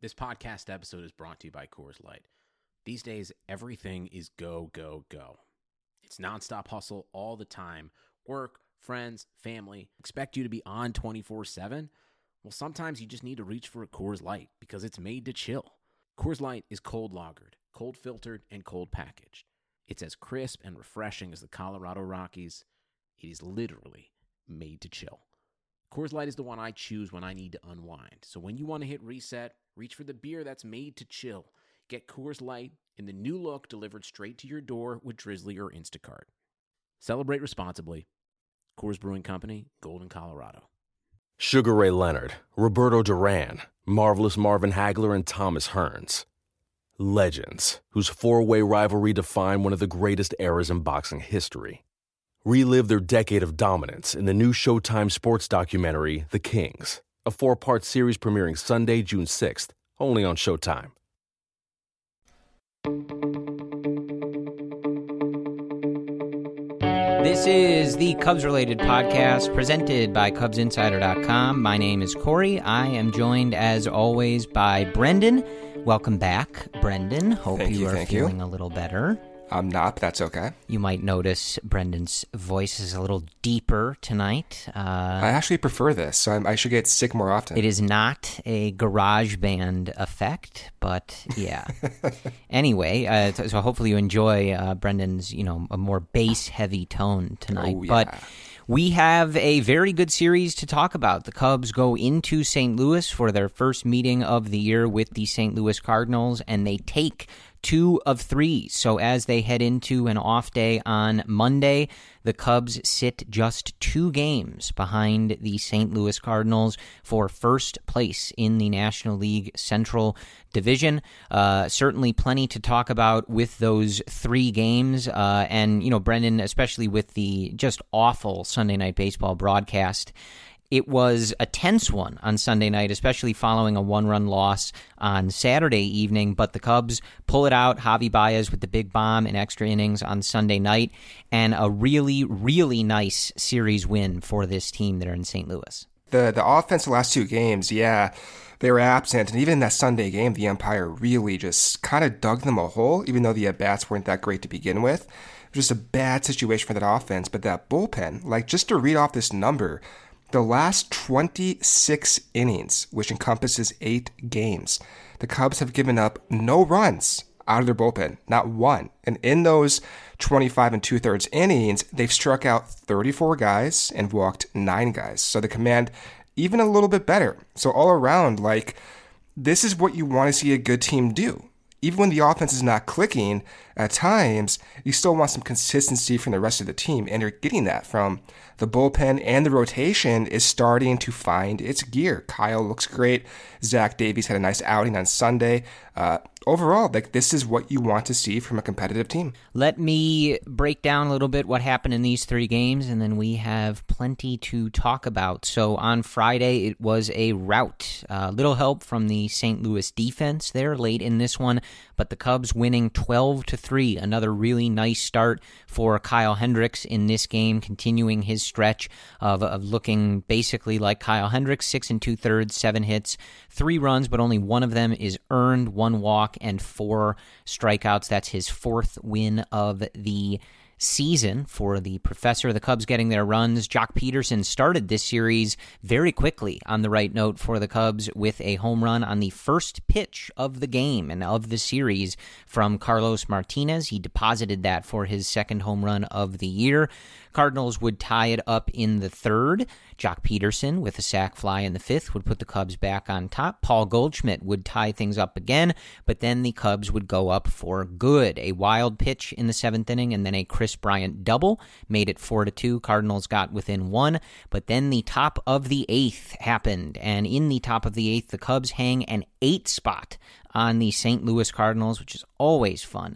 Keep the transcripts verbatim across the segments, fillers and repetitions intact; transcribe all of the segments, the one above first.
This podcast episode is brought to you by Coors Light. These days, everything is go, go, go. It's nonstop hustle all the time. Work, friends, family, expect you to be on twenty-four seven. Well, sometimes you just need to reach for a Coors Light because it's made to chill. Coors Light is cold lagered, cold filtered, and cold packaged. It's as crisp and refreshing as the Colorado Rockies. It is literally made to chill. Coors Light is the one I choose when I need to unwind. So when you want to hit reset, reach for the beer that's made to chill. Get Coors Light in the new look delivered straight to your door with Drizzly or Instacart. Celebrate responsibly. Coors Brewing Company, Golden, Colorado. Sugar Ray Leonard, Roberto Duran, Marvelous Marvin Hagler, and Thomas Hearns. Legends, whose four-way rivalry defined one of the greatest eras in boxing history. Relive their decade of dominance in the new Showtime sports documentary, The Kings, a four-part series premiering Sunday, June sixth, only on Showtime. This is the Cubs-related podcast presented by Cubs Insider dot com. My name is Corey. I am joined, as always, by Brendan. Welcome back, Brendan. Hope Thank you, you, are thank feeling you. a little better. I'm not, but that's okay. You might notice Brendan's voice is a little deeper tonight. Uh, I actually prefer this, so I'm, I should get sick more often. It is not a garage band effect, but yeah. Anyway, uh, so hopefully you enjoy uh, Brendan's, you know, a more bass-heavy tone tonight. Oh, yeah. But we have a very good series to talk about. The Cubs go into Saint Louis for their first meeting of the year with the Saint Louis Cardinals, and they take two of three. So as they head into an off day on Monday, the Cubs sit just two games behind the Saint Louis Cardinals for first place in the National League Central Division. Uh, certainly plenty to talk about with those three games. Uh, and, you know, Brendan, especially with the just awful Sunday Night Baseball broadcast, it was a tense one on Sunday night, especially following a one-run loss on Saturday evening, but the Cubs pull it out. Javi Baez with the big bomb in extra innings on Sunday night, and a really, really nice series win for this team that are in Saint Louis. The the offense the last two games, yeah, they were absent, and even in that Sunday game, the umpire really just kind of dug them a hole, even though the at-bats weren't that great to begin with. It was just a bad situation for that offense, but that bullpen, like, just to read off this number, the last twenty-six innings, which encompasses eight games, the Cubs have given up no runs out of their bullpen, not one. And in those twenty-five and two-thirds innings, they've struck out thirty-four guys and walked nine guys. So the command, even a little bit better. So all around, like, this is what you want to see a good team do. Even when the offense is not clicking, at times, you still want some consistency from the rest of the team, and you're getting that from the bullpen, and the rotation is starting to find its gear. Kyle looks great. Zach Davies had a nice outing on Sunday. Uh, overall, like, this is what you want to see from a competitive team. Let me break down a little bit what happened in these three games, and then we have plenty to talk about. So on Friday, it was a rout. Uh, little help from the Saint Louis defense there late in this one, but the Cubs winning twelve to three. Another really nice start for Kyle Hendricks in this game, continuing his stretch of, of looking basically like Kyle Hendricks, six and two-thirds, seven hits, three runs, but only one of them is earned, one walk, and four strikeouts. That's his fourth win of the season for the Professor. The Cubs getting their runs. Jock Peterson started this series very quickly on the right note for the Cubs with a home run on the first pitch of the game and of the series from Carlos Martinez. He deposited that for his second home run of the year. Cardinals would tie it up in the third. Jock Peterson with a sac fly in the fifth would put the Cubs back on top. Paul Goldschmidt would tie things up again, but then the Cubs would go up for good. A wild pitch in the seventh inning and then a Chris Bryant double made it four to two. Cardinals got within one, but then the top of the eighth happened, and in the top of the eighth, the Cubs hang an eight spot on the Saint Louis Cardinals, which is always fun.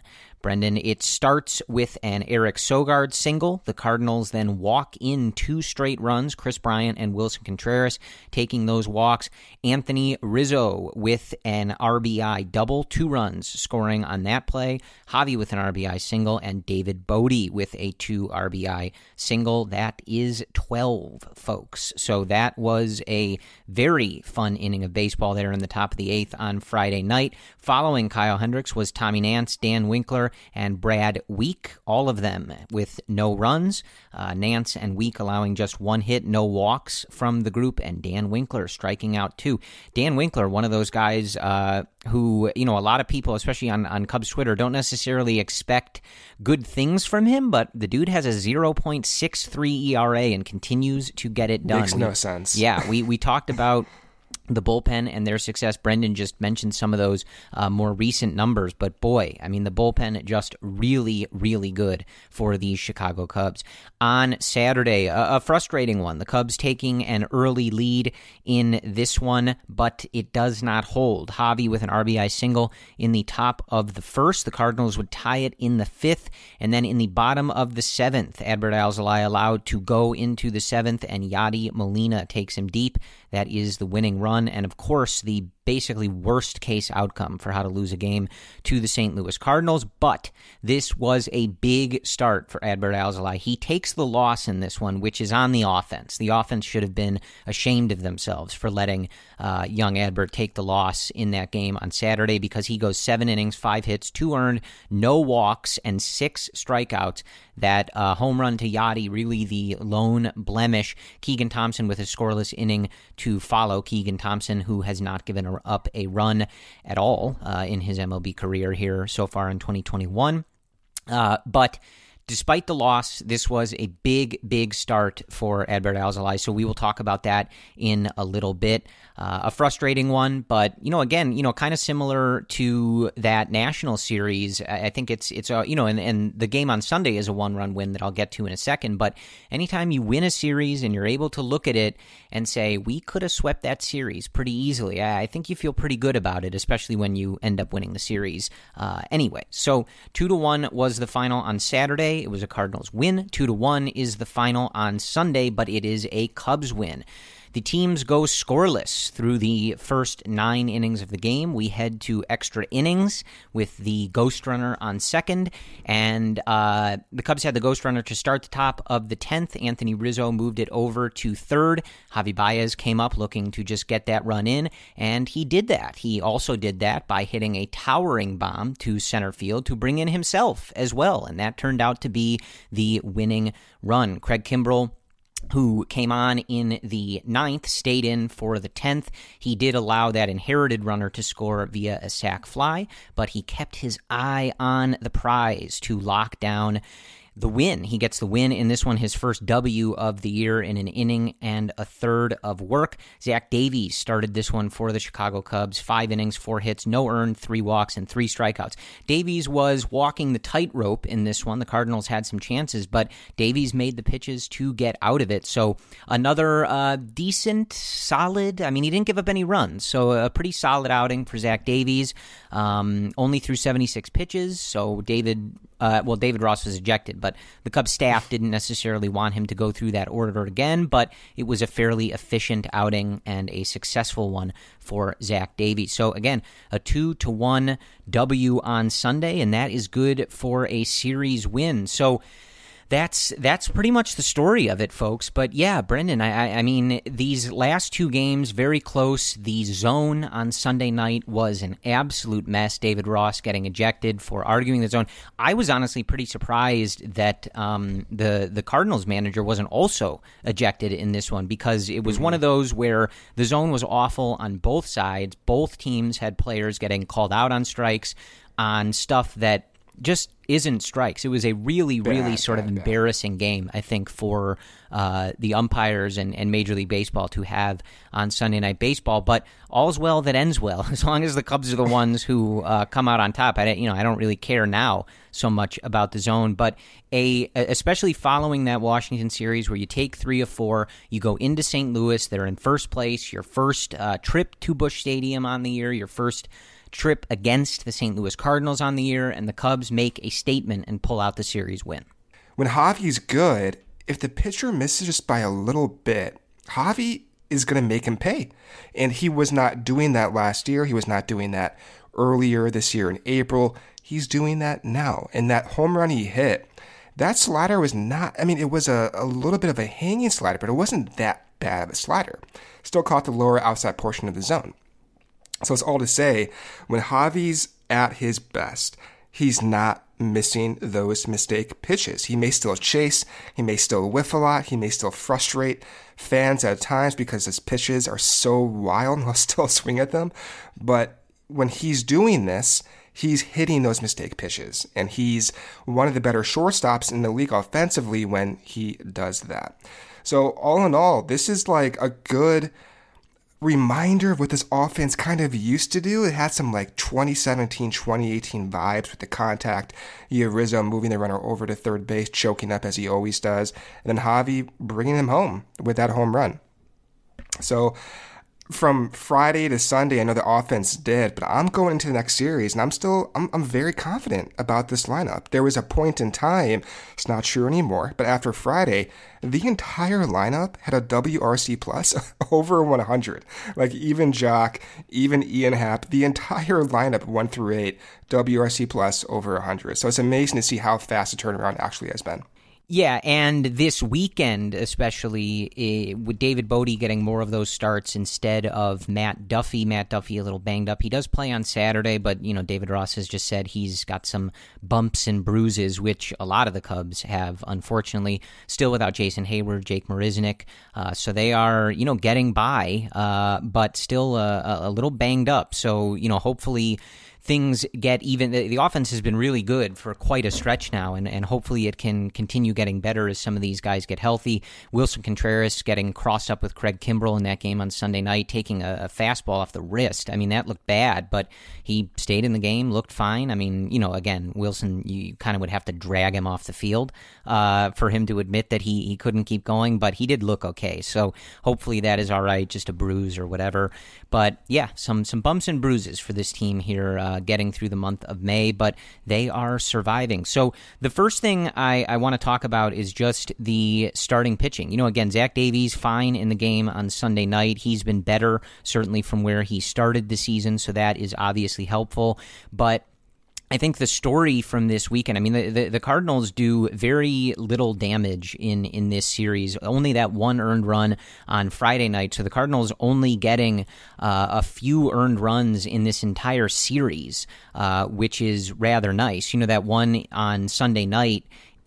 Brendan. It starts with an Eric Sogard single. The Cardinals then walk in two straight runs, Chris Bryant and Wilson Contreras taking those walks. Anthony Rizzo with an R B I double, two runs scoring on that play. Javi with an R B I single, and David Bodie with a two R B I single. That is twelve, folks. So that was a very fun inning of baseball there in the top of the eighth on Friday night. Following Kyle Hendricks was Tommy Nance, Dan Winkler, and Brad Week, all of them with no runs. Uh, Nance and Week allowing just one hit, no walks from the group, and Dan Winkler striking out too. Dan Winkler, one of those guys uh, who, you know, a lot of people, especially on, on Cubs Twitter, don't necessarily expect good things from him, but the dude has a zero point six three E R A and continues to get it done. Makes no sense. Yeah, we, we talked about the bullpen and their success. Brendan just mentioned some of those uh, more recent numbers, but boy, I mean, the bullpen just really, really good for the Chicago Cubs. On Saturday, a, a frustrating one. The Cubs taking an early lead in this one, but it does not hold. Javi with an R B I single in the top of the first. The Cardinals would tie it in the fifth, and then in the bottom of the seventh, Adbert Alzolay allowed to go into the seventh, and Yadi Molina takes him deep. That is the winning run, and of course, the basically worst case outcome for how to lose a game to the Saint Louis Cardinals, but this was a big start for Adbert Alzolay. He takes the loss in this one, which is on the offense. The offense should have been ashamed of themselves for letting uh, young Adbert take the loss in that game on Saturday, because he goes seven innings, five hits, two earned, no walks, and six strikeouts. That uh, home run to Yadi, really the lone blemish. Keegan Thompson with a scoreless inning to follow. Keegan Thompson, who has not given a up a run at all uh, in his M L B career here so far in twenty twenty-one. Uh, but despite the loss, this was a big, big start for Adbert Alzolay, so we will talk about that in a little bit. Uh, a frustrating one, but, you know, again, you know, kind of similar to that National Series. I think it's, it's a, you know, and, and the game on Sunday is a one-run win that I'll get to in a second, but anytime you win a series and you're able to look at it and say, we could have swept that series pretty easily, I think you feel pretty good about it, especially when you end up winning the series uh, anyway. So two to one was the final on Saturday. It was a Cardinals win. Two to one is the final on Sunday, but it is a Cubs win. The teams go scoreless through the first nine innings of the game. We head to extra innings with the ghost runner on second, and uh, the Cubs had the ghost runner to start the top of the tenth. Anthony Rizzo moved it over to third. Javi Baez came up looking to just get that run in, and he did that. He also did that by hitting a towering bomb to center field to bring in himself as well, and that turned out to be the winning run. Craig Kimbrell, who came on in the ninth, stayed in for the tenth. He did allow that inherited runner to score via a sac fly, but he kept his eye on the prize to lock down the win. He gets the win in this one, his first W of the year in an inning and a third of work. Zach Davies started this one for the Chicago Cubs. Five innings, four hits, no earned, three walks, and three strikeouts. Davies was walking the tightrope in this one. The Cardinals had some chances, but Davies made the pitches to get out of it. So another uh, decent, solid, I mean, he didn't give up any runs, so a pretty solid outing for Zach Davies. Um, only threw seventy-six pitches, so David... Uh, well, David Ross was ejected, but the Cubs staff didn't necessarily want him to go through that order again, but it was a fairly efficient outing and a successful one for Zach Davies. So again, a two to one W on Sunday, and that is good for a series win. So That's that's pretty much the story of it, folks. But yeah, Brendan, I, I mean, these last two games, very close. The zone on Sunday night was an absolute mess. David Ross getting ejected for arguing the zone. I was honestly pretty surprised that um, the, the Cardinals manager wasn't also ejected in this one, because it was mm-hmm. one of those where the zone was awful on both sides. Both teams had players getting called out on strikes on stuff that just isn't strikes. It was a really, bad, really sort bad, of embarrassing bad. game, I think, for uh, the umpires and, and Major League Baseball to have on Sunday Night Baseball. But all's well that ends well, as long as the Cubs are the ones who uh, come out on top. I, you know, I don't really care now so much about the zone, but a especially following that Washington series where you take three of four, you go into Saint Louis, they're in first place, your first uh, trip to Busch Stadium on the year, your first trip against the Saint Louis Cardinals on the year, and the Cubs make a statement and pull out the series win. When Javi's good, if the pitcher misses just by a little bit, Javi is going to make him pay. And he was not doing that last year. He was not doing that earlier this year in April. He's doing that now. And that home run he hit, that slider was not, I mean, it was a, a little bit of a hanging slider, but it wasn't that bad of a slider. Still caught the lower outside portion of the zone. So it's all to say, when Javi's at his best, he's not missing those mistake pitches. He may still chase, he may still whiff a lot, he may still frustrate fans at times because his pitches are so wild and he'll still swing at them. But when he's doing this, he's hitting those mistake pitches, and he's one of the better shortstops in the league offensively when he does that. So all in all, this is like a good reminder of what this offense kind of used to do. It had some like twenty seventeen, twenty eighteen vibes with the contact. You have Rizzo moving the runner over to third base, choking up as he always does, and then Javi bringing him home with that home run. So from Friday to Sunday, I know the offense did, but I'm going into the next series, and I'm still, I'm, I'm very confident about this lineup. There was a point in time, it's not true anymore, but after Friday, the entire lineup had a W R C plus over one hundred. Like even Jock, even Ian Happ, the entire lineup, one through eight, W R C plus over one hundred. So it's amazing to see how fast the turnaround actually has been. Yeah, and this weekend especially, eh, with David Bodie getting more of those starts instead of Matt Duffy. Matt Duffy a little banged up. He does play on Saturday, but you know David Ross has just said he's got some bumps and bruises, which a lot of the Cubs have, unfortunately. Still without Jason Hayward, Jake Marisnick, uh, so they are you know getting by, uh, but still uh, a little banged up. So you know hopefully things get even. The, the offense has been really good for quite a stretch now, and, and hopefully it can continue getting better as some of these guys get healthy. Wilson Contreras getting crossed up with Craig Kimbrell in that game on Sunday night, taking a, a fastball off the wrist. I mean, that looked bad, but he stayed in the game, looked fine. I mean, you know, again, Wilson, you kind of would have to drag him off the field uh, for him to admit that he, he couldn't keep going, but he did look okay. So hopefully that is all right, just a bruise or whatever. But yeah, some, some bumps and bruises for this team here, uh, getting through the month of May, but they are surviving. So the first thing I, I want to talk about is just the starting pitching. You know, again, Zach Davies, fine in the game on Sunday night. He's been better, certainly from where he started the season, so that is obviously helpful. But I think the story from this weekend, I mean, the, the, the Cardinals do very little damage in, in this series. Only that one earned run on Friday night. So the Cardinals only getting uh, a few earned runs in this entire series, uh, which is rather nice. You know, that one on Sunday night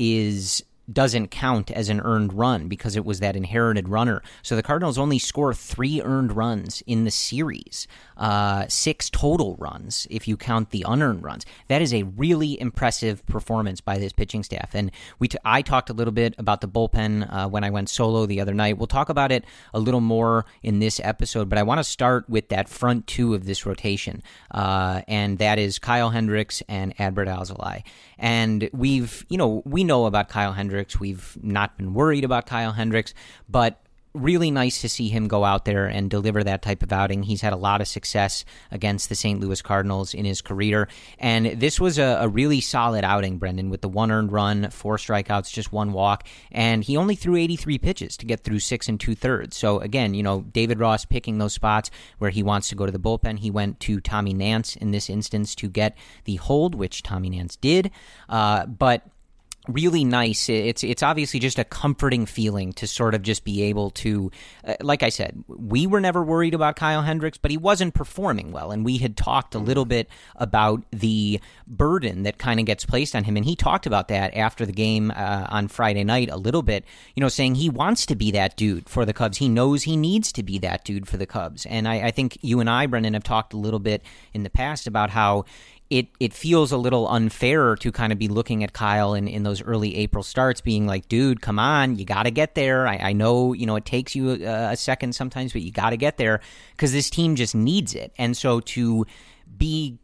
is doesn't count as an earned run because it was that inherited runner. So the Cardinals only score three earned runs in the series, uh, six total runs if you count the unearned runs. That is a really impressive performance by this pitching staff. And we t- I talked a little bit about the bullpen uh, when I went solo the other night. We'll talk about it a little more in this episode, but I want to start with that front two of this rotation, uh, and that is Kyle Hendricks and Adbert Alzolay. And we've, you know, we know about Kyle Hendricks. We've not been worried about Kyle Hendricks, but really nice to see him go out there and deliver that type of outing. He's had a lot of success against the Saint Louis Cardinals in his career, and this was a, a really solid outing, Brendan, with the one earned run, four strikeouts, just one walk, and he only threw eighty-three pitches to get through six and two-thirds. So again, you know, David Ross picking those spots where he wants to go to the bullpen. He went to Tommy Nance in this instance to get the hold, which Tommy Nance did, uh, but really nice. It's it's obviously just a comforting feeling to sort of just be able to, uh, like I said, we were never worried about Kyle Hendricks, but he wasn't performing well, and we had talked a little bit about the burden that kind of gets placed on him, and he talked about that after the game uh, on Friday night a little bit, you know, saying he wants to be that dude for the Cubs. He knows he needs to be that dude for the Cubs, and I, I think you and I, Brendan, have talked a little bit in the past about how It it feels a little unfair to kind of be looking at Kyle in, in those early April starts being like, dude, come on, you got to get there. I, I know, you know, it takes you a, a second sometimes, but you got to get there because this team just needs it. And so to be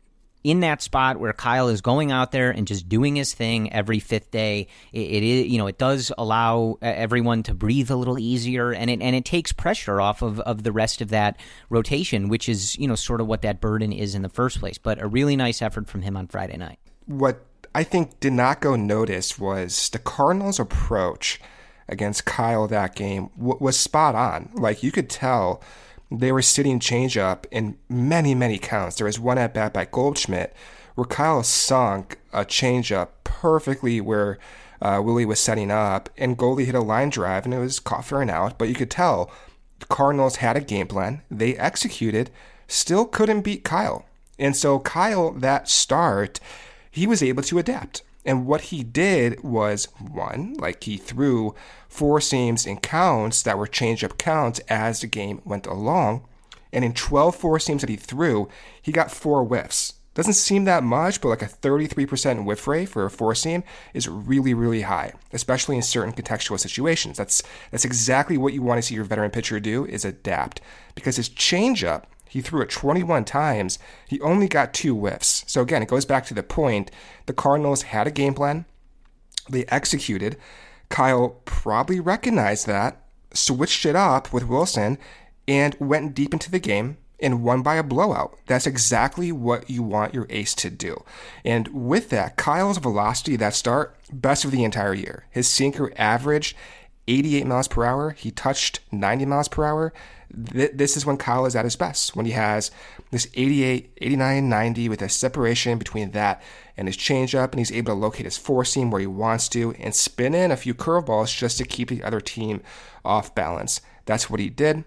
in that spot where Kyle is going out there and just doing his thing every fifth day, it, it is, you know, it does allow everyone to breathe a little easier, and it and it takes pressure off of, of the rest of that rotation, which is, you know, sort of what that burden is in the first place. But a really nice effort from him on Friday night. What I think did not go noticed was the Cardinals' approach against Kyle that game w- was spot on. Like, you could tell they were sitting changeup in many, many counts. There was one at bat by Goldschmidt where Kyle sunk a changeup perfectly where uh, Willie was setting up, and Goldie hit a line drive, and it was caught for an out. But you could tell the Cardinals had a game plan. They executed, still couldn't beat Kyle. And so Kyle, that start, he was able to adapt. And what he did was, one, like he threw four seams in counts that were change-up counts as the game went along. And in twelve four seams that he threw, he got four whiffs. Doesn't seem that much, but like a thirty-three percent whiff rate for a four seam is really, really high, especially in certain contextual situations. That's that's exactly what you want to see your veteran pitcher do, is adapt. Because his change-up, he threw it twenty-one times. He only got two whiffs. So again, it goes back to the point. The Cardinals had a game plan. They executed. Kyle probably recognized that, switched it up with Wilson, and went deep into the game and won by a blowout. That's exactly what you want your ace to do. And with that, Kyle's velocity, that start, best of the entire year. His sinker averaged eighty-eight miles per hour. He touched ninety miles per hour. This is when Kyle is at his best, when he has this eighty-eight, eighty-nine, ninety with a separation between that and his changeup, and he's able to locate his four seam where he wants to and spin in a few curveballs just to keep the other team off balance. That's what he did.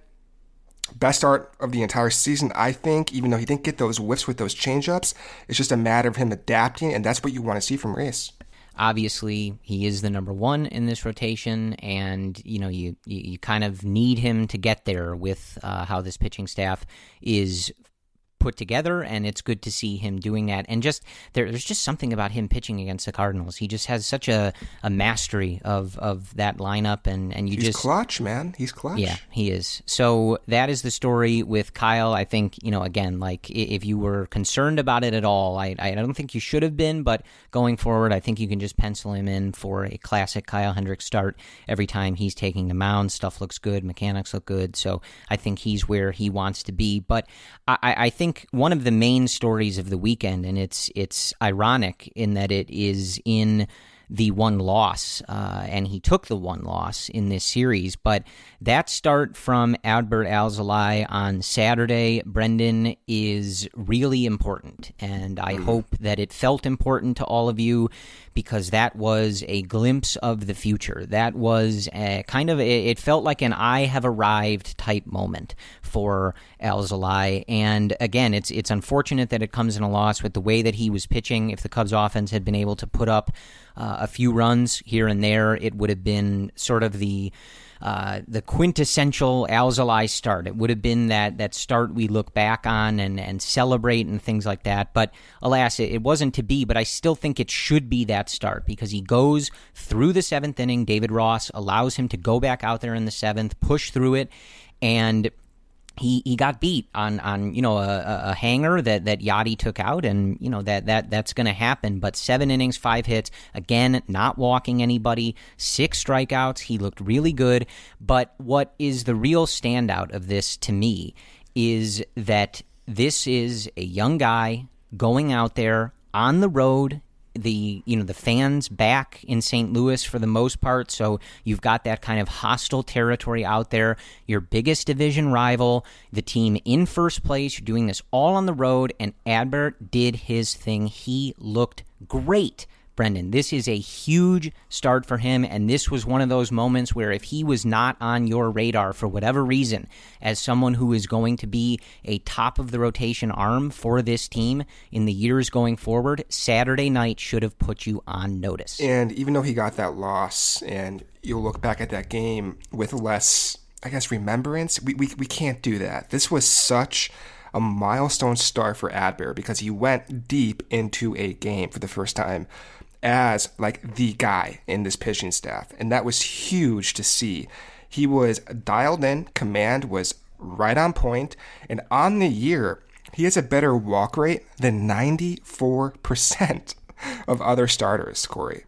Best start of the entire season, I think, even though he didn't get those whiffs with those changeups. It's just a matter of him adapting, and that's what you want to see from Reyes. Obviously, he is the number one in this rotation, and you know you you, you kind of need him to get there with uh, how this pitching staff is put together, and it's good to see him doing that. And just there, there's just something about him pitching against the Cardinals. He just has such a, a mastery of, of that lineup, and, and you He's just clutch, man. He's clutch. Yeah, he is. So that is the story with Kyle. I think, you know, again, like if you were concerned about it at all, I I don't think you should have been, but going forward, I think you can just pencil him in for a classic Kyle Hendricks start every time he's taking the mound. Stuff looks good, mechanics look good, so I think he's where he wants to be. But I, I think one of the main stories of the weekend, and it's it's ironic in that it is in the one loss, uh, and he took the one loss in this series, but that start from Adbert Alzolay on Saturday, Brendan, is really important, and I mm. hope that it felt important to all of you, because that was a glimpse of the future. That was a kind of, it felt like an I have arrived type moment for Alzolay. And again, it's it's unfortunate that it comes in a loss with the way that he was pitching. If the Cubs offense had been able to put up uh, a few runs here and there, it would have been sort of the Uh, the quintessential Alzolay start. It would have been that that start we look back on and, and celebrate and things like that. But alas, it, it wasn't to be, but I still think it should be that start, because he goes through the seventh inning. David Ross allows him to go back out there in the seventh, push through it, and He he got beat on, on you know a, a hanger that, that Yadi took out, and you know that, that that's going to happen. But seven innings, five hits, again, not walking anybody, six strikeouts. He looked really good. But what is the real standout of this to me is that this is a young guy going out there on the road. The you know the fans back in Saint Louis for the most part, so you've got that kind of hostile territory out there. Your biggest division rival, the team in first place. You're doing this all on the road, and Adbert did his thing. He looked great, Brendan. This is a huge start for him, and this was one of those moments where if he was not on your radar for whatever reason, as someone who is going to be a top-of-the-rotation arm for this team in the years going forward, Saturday night should have put you on notice. And even though he got that loss, and you'll look back at that game with less, I guess, remembrance, we we, we can't do that. This was such a milestone start for Adbert, because he went deep into a game for the first time as like the guy in this pitching staff, and that was huge to see. He was dialed in, command was right on point, and on the year, He has a better walk rate than ninety-four percent of other starters, Corey.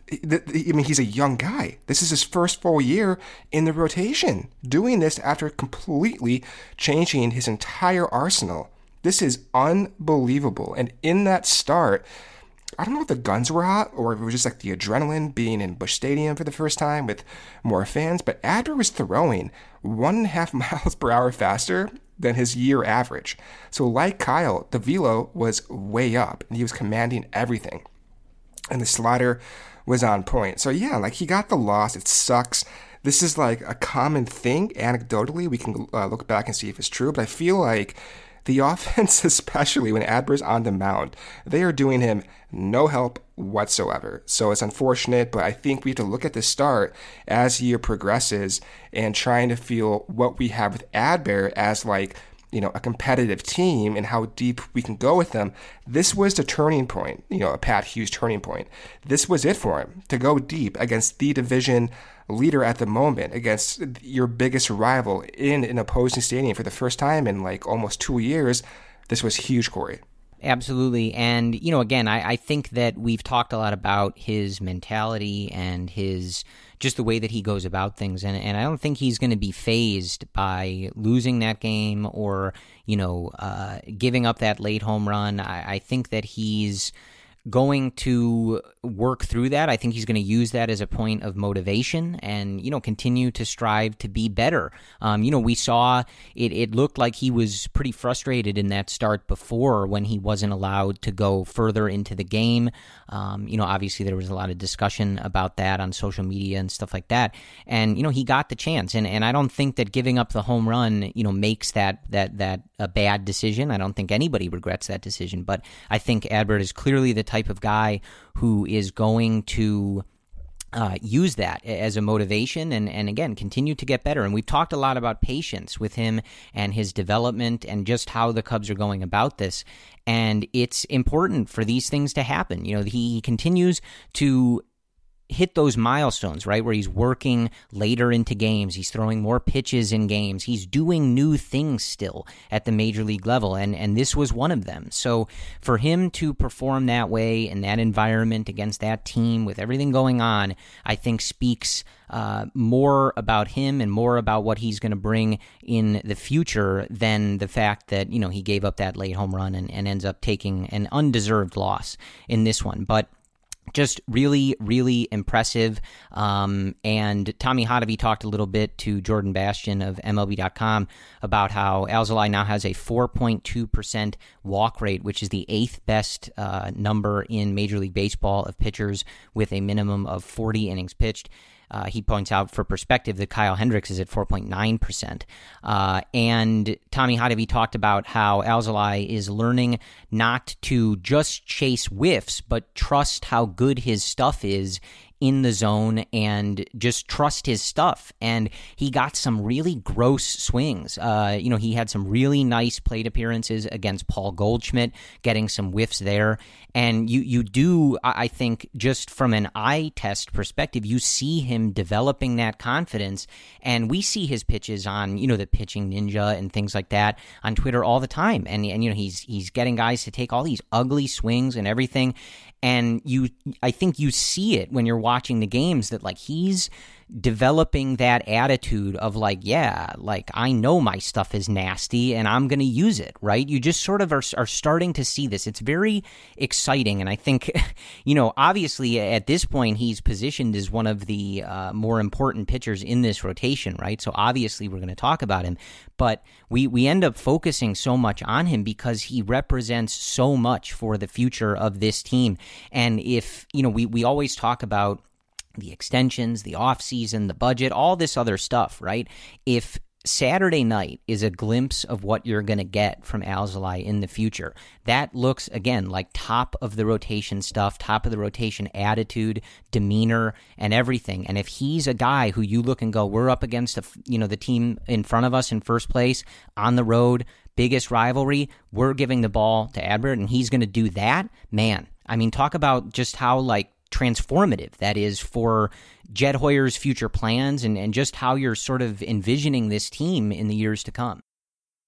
I mean, he's a young guy. This is his first full year in the rotation, doing this after completely changing his entire arsenal. This is unbelievable. And in that start, I don't know if the guns were hot or if it was just like the adrenaline being in Busch Stadium for the first time with more fans, but Adbert was throwing one and a half miles per hour faster than his year average. So like Kyle, the velo was way up and he was commanding everything. And the slider was on point. So yeah, like he got the loss. It sucks. This is like a common thing. Anecdotally, we can uh, look back and see if it's true, but I feel like the offense, especially when Adbert's on the mound, they are doing him no help whatsoever. So it's unfortunate, but I think we have to look at the start as the year progresses and trying to feel what we have with Adbert as like, you know, a competitive team and how deep we can go with them. This was the turning point, you know, a Pat Hughes turning point. This was it for him, to go deep against the division leader at the moment, against your biggest rival in an opposing stadium for the first time in like almost two years. This was huge, Corey. Absolutely. And, you know, again, I, I think that we've talked a lot about his mentality and his just the way that he goes about things. And, and I don't think he's going to be fazed by losing that game or, you know, uh, giving up that late home run. I, I think that he's going to work through that. I think he's going to use that as a point of motivation and, you know, continue to strive to be better. Um, you know, we saw it, it looked like he was pretty frustrated in that start before when he wasn't allowed to go further into the game. Um, you know, obviously there was a lot of discussion about that on social media and stuff like that. And, you know, he got the chance. And, and I don't think that giving up the home run, you know, makes that, that, that a bad decision. I don't think anybody regrets that decision, but I think Adbert is clearly the type of guy who is going to uh, use that as a motivation and, and again, continue to get better. And we've talked a lot about patience with him and his development and just how the Cubs are going about this. And it's important for these things to happen. You know, he continues to hit those milestones, right, where he's working later into games, he's throwing more pitches in games, he's doing new things still at the major league level, and and this was one of them. So for him to perform that way in that environment against that team with everything going on, I think speaks uh, more about him and more about what he's going to bring in the future than the fact that, you know, he gave up that late home run and, and ends up taking an undeserved loss in this one. But just really, really impressive. Um, and Tommy Hotovy talked a little bit to Jordan Bastian of M L B dot com about how Alzolay now has a four point two percent walk rate, which is the eighth best uh, number in Major League Baseball of pitchers with a minimum of forty innings pitched. Uh, he points out, for perspective, that Kyle Hendricks is at four point nine percent. Uh, and Tommy Hotovy talked about how Alzolay is learning not to just chase whiffs, but trust how good his stuff is in the zone and just trust his stuff. And he got some really gross swings. Uh, you know, he had some really nice plate appearances against Paul Goldschmidt, getting some whiffs there. And you, you do, I think, just from an eye test perspective, you see him developing that confidence. And we see his pitches on, you know, the Pitching Ninja and things like that on Twitter all the time. And, and you know, he's he's getting guys to take all these ugly swings and everything. And you, I think you see it when you're watching the games that, like, he's developing that attitude of, like, yeah, like, I know my stuff is nasty and I'm going to use it, right? You just sort of are, are starting to see this. It's very exciting. And I think, you know, obviously at this point, he's positioned as one of the uh, more important pitchers in this rotation, right? So obviously we're going to talk about him, but we, we end up focusing so much on him because he represents so much for the future of this team. And if, you know, we, we always talk about the extensions, the offseason, the budget, all this other stuff, right? If Saturday night is a glimpse of what you're going to get from Alzolay in the future, that looks, again, like top of the rotation stuff, top of the rotation attitude, demeanor, and everything. And if he's a guy who you look and go, we're up against a, you know, the team in front of us in first place, on the road, biggest rivalry, we're giving the ball to Adbert, and he's going to do that, man. I mean, talk about just how, like, transformative that is for Jed Hoyer's future plans and, and just how you're sort of envisioning this team in the years to come.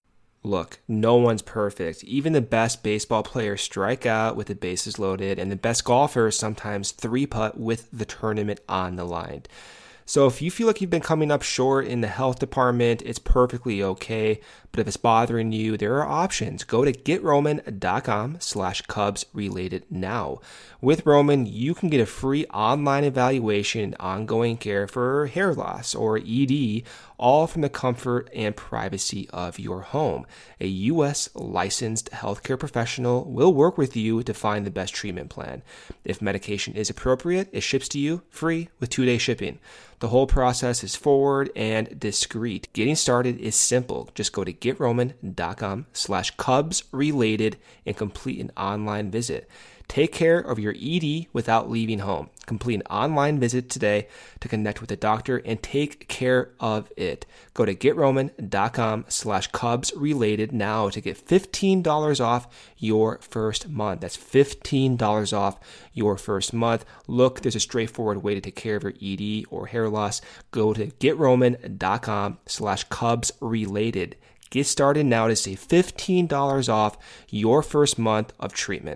Look, no one's perfect. Even the best baseball players strike out with the bases loaded, and the best golfers sometimes three-putt with the tournament on the line. So if you feel like you've been coming up short in the health department, it's perfectly okay. But if it's bothering you, there are options. Go to getroman.com slash Cubs related now. With Roman, you can get a free online evaluation and ongoing care for hair loss or E D, all from the comfort and privacy of your home. A U S licensed healthcare professional will work with you to find the best treatment plan. If medication is appropriate, it ships to you free with two-day shipping. The whole process is forward and discreet. Getting started is simple. Just go to getroman.com slash Cubs related and complete an online visit. Take care of your E D without leaving home. Complete an online visit today to connect with a doctor and take care of it. Go to getroman.com slash Cubs related now to get fifteen dollars off your first month. That's fifteen dollars off your first month. Look, there's a straightforward way to take care of your E D or hair loss. Go to getroman.com slash Cubs related. Get started now to save fifteen dollars off your first month of treatment.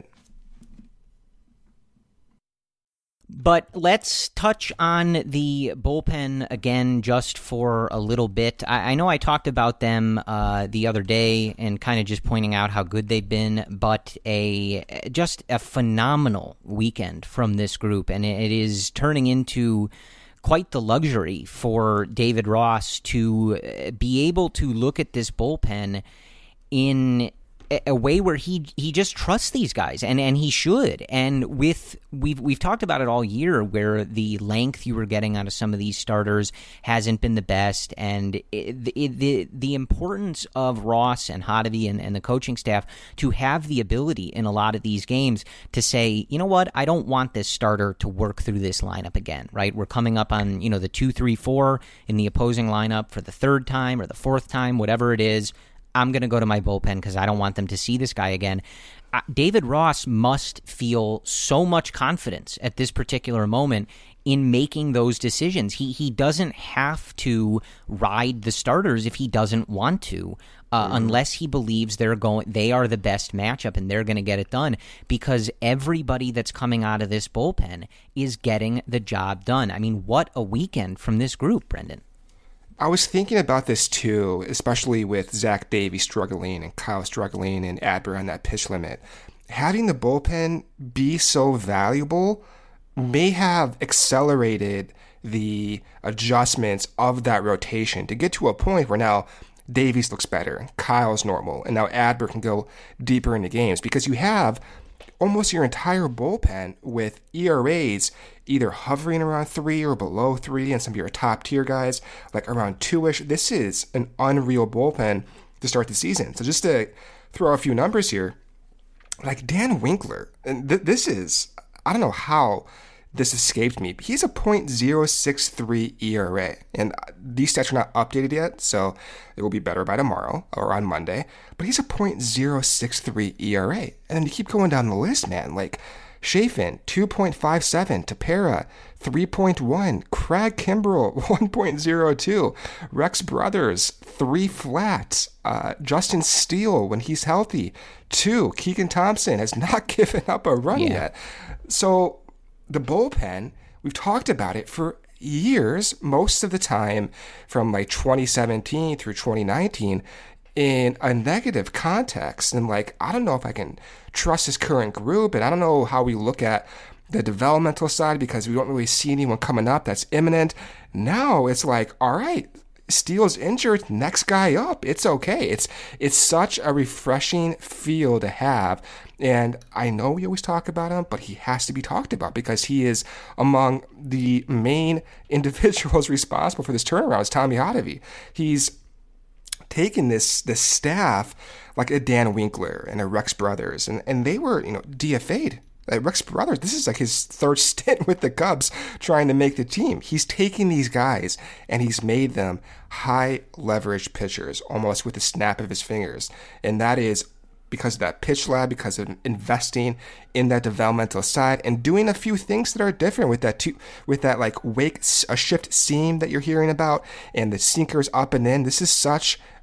But let's touch on the bullpen again just for a little bit. I, I know I talked about them uh, the other day and kind of just pointing out how good they've been, but a just a phenomenal weekend from this group, and it is turning into quite the luxury for David Ross to be able to look at this bullpen in a way where he he just trusts these guys, and, and he should. And with we've we've talked about it all year, where the length you were getting out of some of these starters hasn't been the best, and it, it, the the importance of Ross and Hottovy and, and the coaching staff to have the ability in a lot of these games to say, you know what, I don't want this starter to work through this lineup again. Right, we're coming up on you know the two, three, four in the opposing lineup for the third time or the fourth time, whatever it is. I'm going to go to my bullpen because I don't want them to see this guy again. Uh, David Ross must feel so much confidence at this particular moment in making those decisions. He he doesn't have to ride the starters if he doesn't want to, uh, mm. unless he believes they're going. They are the best matchup and they're going to get it done, because everybody that's coming out of this bullpen is getting the job done. I mean, what a weekend from this group, Brendan. I was thinking about this too, especially with Zach Davies struggling and Kyle struggling and Adbert on that pitch limit. Having the bullpen be so valuable may have accelerated the adjustments of that rotation to get to a point where now Davies looks better, Kyle's normal, and now Adbert can go deeper into games, because you have almost your entire bullpen with E R As either hovering around three or below three, and some of your top tier guys like around two-ish. This is an unreal bullpen to start the season. So just to throw a few numbers here, like Dan Winkler, and th- this is, I don't know how this escaped me, but he's a point oh six three E R A. And these stats are not updated yet, so it will be better by tomorrow or on Monday. But he's a point oh six three E R A. And then you keep going down the list, man. Like Chafin, two point five seven. Tepera, three point one. Craig Kimbrell, one point oh two. Rex Brothers, three flats. Uh, Justin Steele, when he's healthy, two. Keegan Thompson has not given up a run yeah. yet. So the bullpen, we've talked about it for years, most of the time from like twenty seventeen through twenty nineteen, in a negative context. And like, I don't know if I can trust this current group, and I don't know how we look at the developmental side because we don't really see anyone coming up that's imminent. Now it's like, all right, Steele's injured, next guy up. It's okay. It's it's such a refreshing feel to have. And I know we always talk about him, but he has to be talked about because he is among the main individuals responsible for this turnaround. It's Tommy Hottovy. He's taken this this staff like a Dan Winkler and a Rex Brothers, and, and they were, you know, D F A'd. Like Rex Brothers, this is like his third stint with the Cubs trying to make the team. He's taking these guys and he's made them high leverage pitchers almost with the snap of his fingers. And that is because of that pitch lab, because of investing in that developmental side and doing a few things that are different with that two, with that like wake, a shift seam that you're hearing about and the sinkers up and in. This is such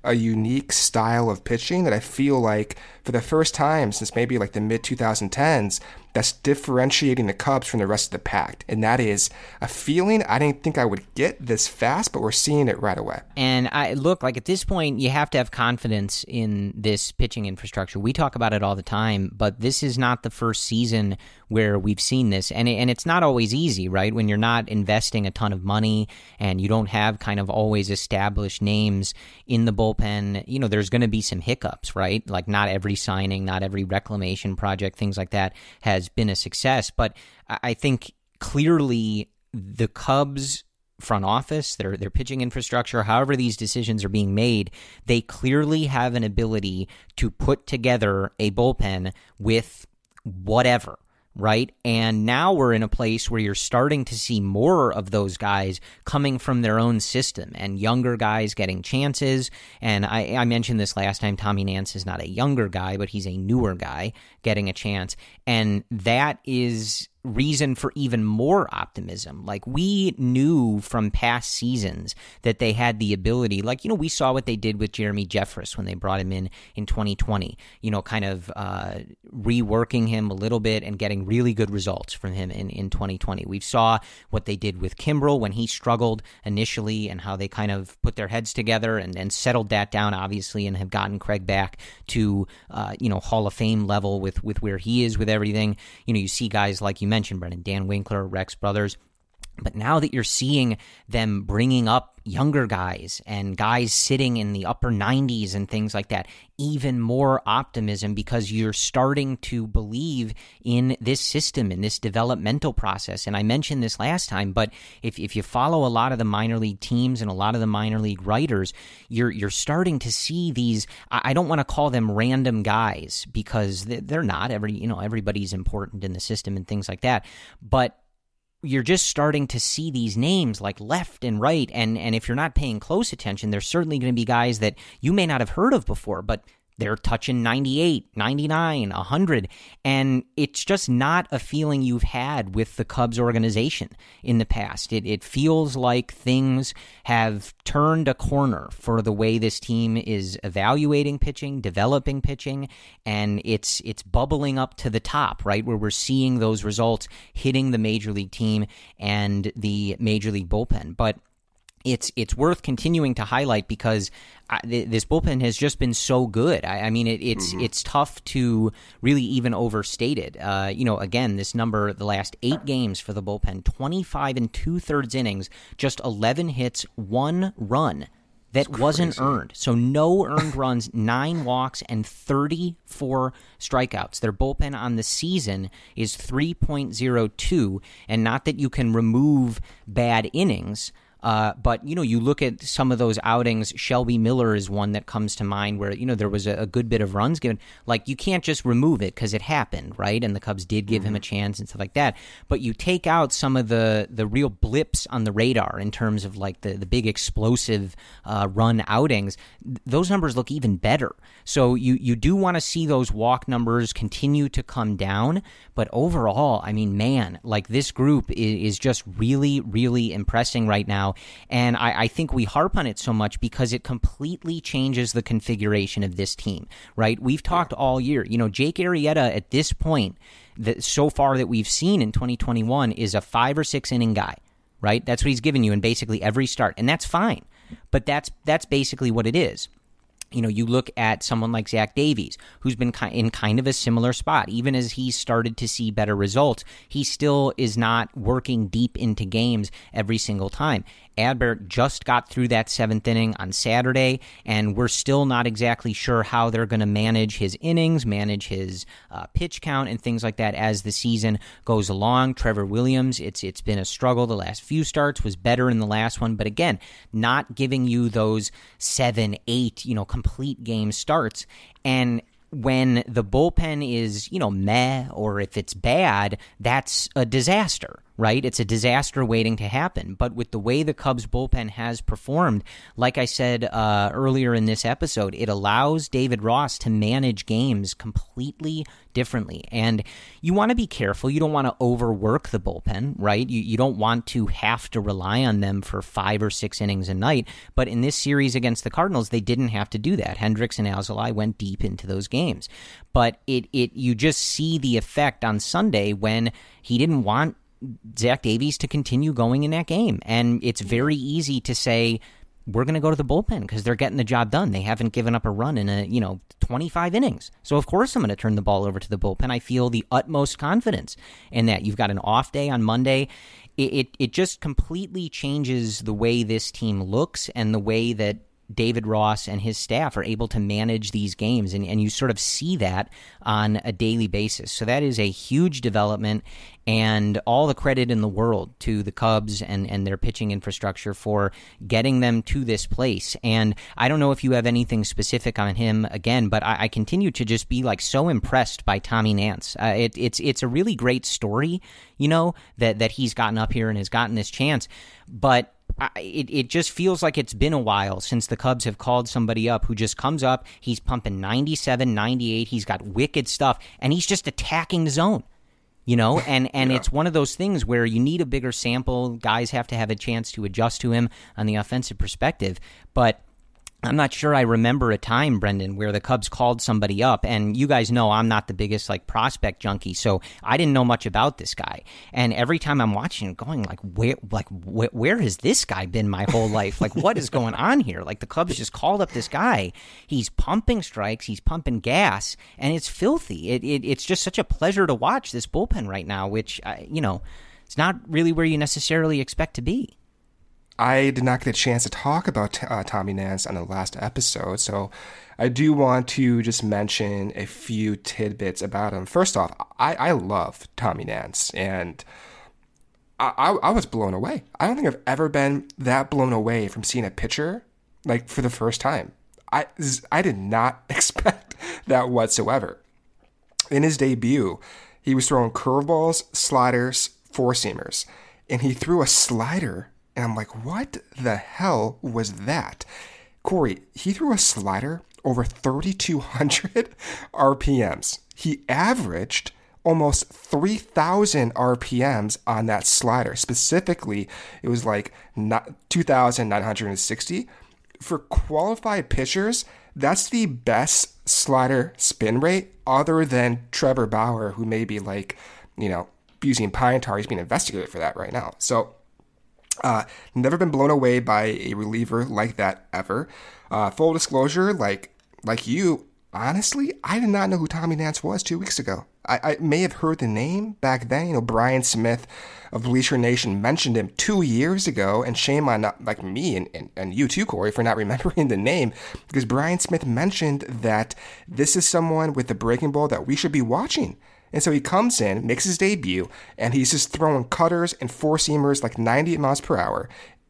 a unique style of pitching that I feel like for the first time since maybe like the mid twenty tens, that's differentiating the Cubs from the rest of the pack. And that is a feeling I didn't think I would get this fast, but we're seeing it right away. And I look, like at this point, you have to have confidence in this pitching infrastructure. We talk about it all the time, but this is not the first season where we've seen this. And, it, and it's not always easy, right? When you're not investing a ton of money and you don't have kind of always established names in the bullpen, you know, there's going to be some hiccups, right? Like not every signing, not every reclamation project, things like that has been a success. But I think clearly the Cubs front office, their their pitching infrastructure, however these decisions are being made, they clearly have an ability to put together a bullpen with whatever, right? And now we're in a place where you're starting to see more of those guys coming from their own system and younger guys getting chances. And I, I mentioned this last time, Tommy Nance is not a younger guy, but he's a newer guy getting a chance. And that is reason for even more optimism. Like we knew from past seasons that they had the ability, like, you know, we saw what they did with Jeremy Jeffress when they brought him in in twenty twenty, you know, kind of uh, reworking him a little bit and getting really good results from him in, in twenty twenty. We saw what they did with Kimbrel when he struggled initially and how they kind of put their heads together and, and settled that down, obviously, and have gotten Craig back to, uh, you know, Hall of Fame level with, with where he is with everything. You know, you see guys like you mentioned, Brendan, Dan Winkler, Rex Brothers. But now that you're seeing them bringing up younger guys and guys sitting in the upper nineties and things like that, even more optimism because you're starting to believe in this system, in this developmental process. And I mentioned this last time, but if if you follow a lot of the minor league teams and a lot of the minor league writers, you're you're starting to see these, I don't want to call them random guys because they're not. Every, you know, everybody's important in the system and things like that. But you're just starting to see these names like left and right, and and if you're not paying close attention, there's certainly going to be guys that you may not have heard of before, but they're touching ninety-eight, ninety-nine, one hundred, and it's just not a feeling you've had with the Cubs organization in the past. It it feels like things have turned a corner for the way this team is evaluating pitching, developing pitching, and it's it's bubbling up to the top, right, where we're seeing those results hitting the Major League team and the Major League bullpen. But It's it's worth continuing to highlight because I, th- this bullpen has just been so good. I, I mean, it, it's mm-hmm. it's tough to really even overstate it. Uh, you know, again, this number, the last eight games for the bullpen, twenty-five and two-thirds innings, just eleven hits, one run that wasn't earned. So no earned runs, nine walks, and thirty-four strikeouts. Their bullpen on the season is three point oh two, and not that you can remove bad innings, Uh, but, you know, you look at some of those outings, Shelby Miller is one that comes to mind where, you know, there was a, a good bit of runs given. Like, you can't just remove it because it happened, right? And the Cubs did give mm-hmm. him a chance and stuff like that. But you take out some of the, the real blips on the radar in terms of, like, the, the big explosive uh, run outings. Those numbers look even better. So you, you do want to see those walk numbers continue to come down. But overall, I mean, man, like, this group is, is just really, really impressing right now. And I, I think we harp on it so much because it completely changes the configuration of this team, right? We've talked all year. You know, Jake Arrieta at this point, that so far that we've seen in twenty twenty-one, is a five or six inning guy, right? That's what he's given you in basically every start, and that's fine. But that's that's basically what it is. You know, you look at someone like Zach Davies, who's been in kind of a similar spot. Even as he's started to see better results, he still is not working deep into games every single time. Adbert just got through that seventh inning on Saturday, and we're still not exactly sure how they're going to manage his innings, manage his uh, pitch count, and things like that as the season goes along. Trevor Williams, it's it's been a struggle the last few starts, was better in the last one, but again, not giving you those seven, eight, you know, complete game starts. And when the bullpen is, you know, meh, or if it's bad, that's a disaster, right? It's a disaster waiting to happen. But with the way the Cubs bullpen has performed, like I said uh, earlier in this episode, it allows David Ross to manage games completely differently. And you want to be careful. You don't want to overwork the bullpen, right? You, you don't want to have to rely on them for five or six innings a night. But in this series against the Cardinals, they didn't have to do that. Hendricks and Alzolay went deep into those games. But it it you just see the effect on Sunday when he didn't want Zach Davies to continue going in that game. And it's very easy to say, we're going to go to the bullpen because they're getting the job done. They haven't given up a run in a, you know, twenty-five innings. So of course I'm going to turn the ball over to the bullpen. I feel the utmost confidence in that. You've got an off day on Monday. It, it, it just completely changes the way this team looks and the way that David Ross and his staff are able to manage these games, and, and you sort of see that on a daily basis. So that is a huge development, and all the credit in the world to the Cubs and, and their pitching infrastructure for getting them to this place. And I don't know if you have anything specific on him again, but I, I continue to just be like so impressed by Tommy Nance. Uh, it, it's it's a really great story, you know, that, that he's gotten up here and has gotten this chance, but I, it, it just feels like it's been a while since the Cubs have called somebody up who just comes up, he's pumping ninety-seven, ninety-eight, he's got wicked stuff, and he's just attacking the zone, you know, and, and yeah. It's one of those things where you need a bigger sample, guys have to have a chance to adjust to him on the offensive perspective, but I'm not sure I remember a time, Brendan, where the Cubs called somebody up, and you guys know I'm not the biggest like prospect junkie, so I didn't know much about this guy. And every time I'm watching it, going like, where, like, where, where has this guy been my whole life? Like, what is going on here? Like, the Cubs just called up this guy. He's pumping strikes, he's pumping gas, and it's filthy. It, it it's just such a pleasure to watch this bullpen right now, which uh, you know, it's not really where you necessarily expect to be. I did not get a chance to talk about uh, Tommy Nance on the last episode, so I do want to just mention a few tidbits about him. First off, I, I love Tommy Nance, and I, I, I was blown away. I don't think I've ever been that blown away from seeing a pitcher like for the first time. I, I did not expect that whatsoever. In his debut, he was throwing curveballs, sliders, four-seamers, and he threw a slider. And I'm like, what the hell was that? Corey, he threw a slider over thirty-two hundred R P Ms. He averaged almost three thousand R P Ms on that slider. Specifically, it was like two thousand nine hundred sixty. For qualified pitchers, that's the best slider spin rate other than Trevor Bauer, who may be like, you know, using pine tar. He's being investigated for that right now. So, Uh, never been blown away by a reliever like that ever. Uh, full disclosure, like like you, honestly, I did not know who Tommy Nance was two weeks ago. I, I may have heard the name back then. You know, Brian Smith of Bleacher Nation mentioned him two years ago, and shame on not, like me and, and, and you too, Corey, for not remembering the name, because Brian Smith mentioned that this is someone with the breaking ball that we should be watching. And so he comes in, makes his debut, and he's just throwing cutters and four-seamers like ninety miles per hour.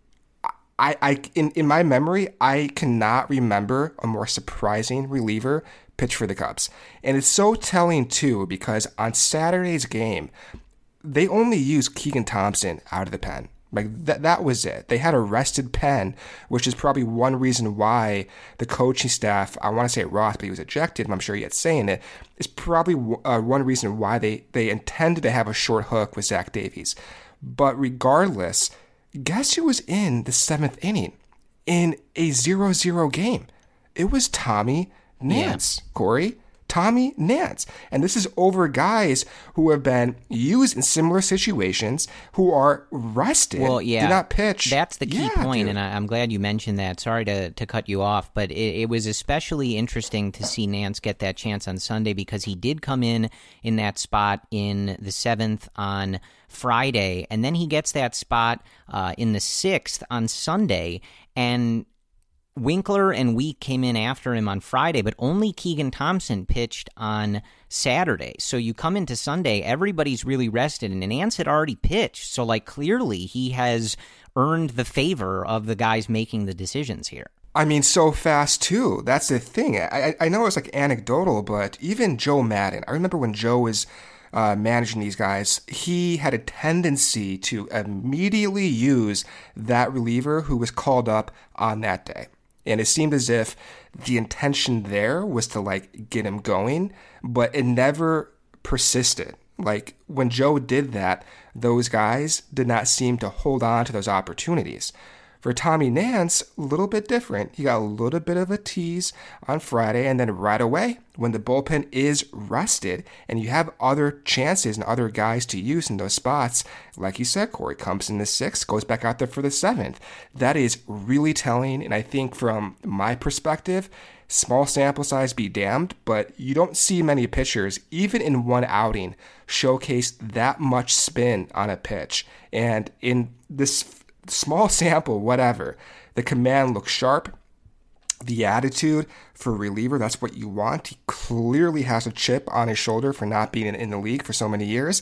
I, I, in, in my memory, I cannot remember a more surprising reliever pitch for the Cubs. And it's so telling, too, because on Saturday's game, they only used Keegan Thompson out of the pen. Like, that that was it. They had a rested Penn, which is probably one reason why the coaching staff, I want to say Ross, but he was ejected, I'm sure he had saying it, is probably uh, one reason why they, they intended to have a short hook with Zach Davies. But regardless, guess who was in the seventh inning in a zero zero game? It was Tommy Nance, yeah. Corey. Tommy Nance. And this is over guys who have been used in similar situations, who are rested, well, yeah, did not pitch. That's the key yeah, point, dude. and I, I'm glad you mentioned that. Sorry to, to cut you off, but it, it was especially interesting to see Nance get that chance on Sunday because he did come in in that spot in the seventh on Friday, and then he gets that spot uh, in the sixth on Sunday, and Winkler and Week came in after him on Friday, but only Keegan Thompson pitched on Saturday. So you come into Sunday, everybody's really rested, and Nance had already pitched. So, like, clearly he has earned the favor of the guys making the decisions here. I mean, so fast, too. That's the thing. I, I know it's, like, anecdotal, but even Joe Madden, I remember when Joe was uh, managing these guys, he had a tendency to immediately use that reliever who was called up on that day. And it seemed as if the intention there was to like get him going, but it never persisted. Like when Joe did that, those guys did not seem to hold on to those opportunities. For Tommy Nance, a little bit different. He got a little bit of a tease on Friday, and then right away, when the bullpen is rested and you have other chances and other guys to use in those spots, like you said, Corey comes in the sixth, goes back out there for the seventh. That is really telling, and I think from my perspective, small sample size be damned, but you don't see many pitchers, even in one outing, showcase that much spin on a pitch. And in this small sample, whatever, the command looks sharp. The attitude for a reliever, that's what you want. He clearly has a chip on his shoulder for not being in, in the league for so many years.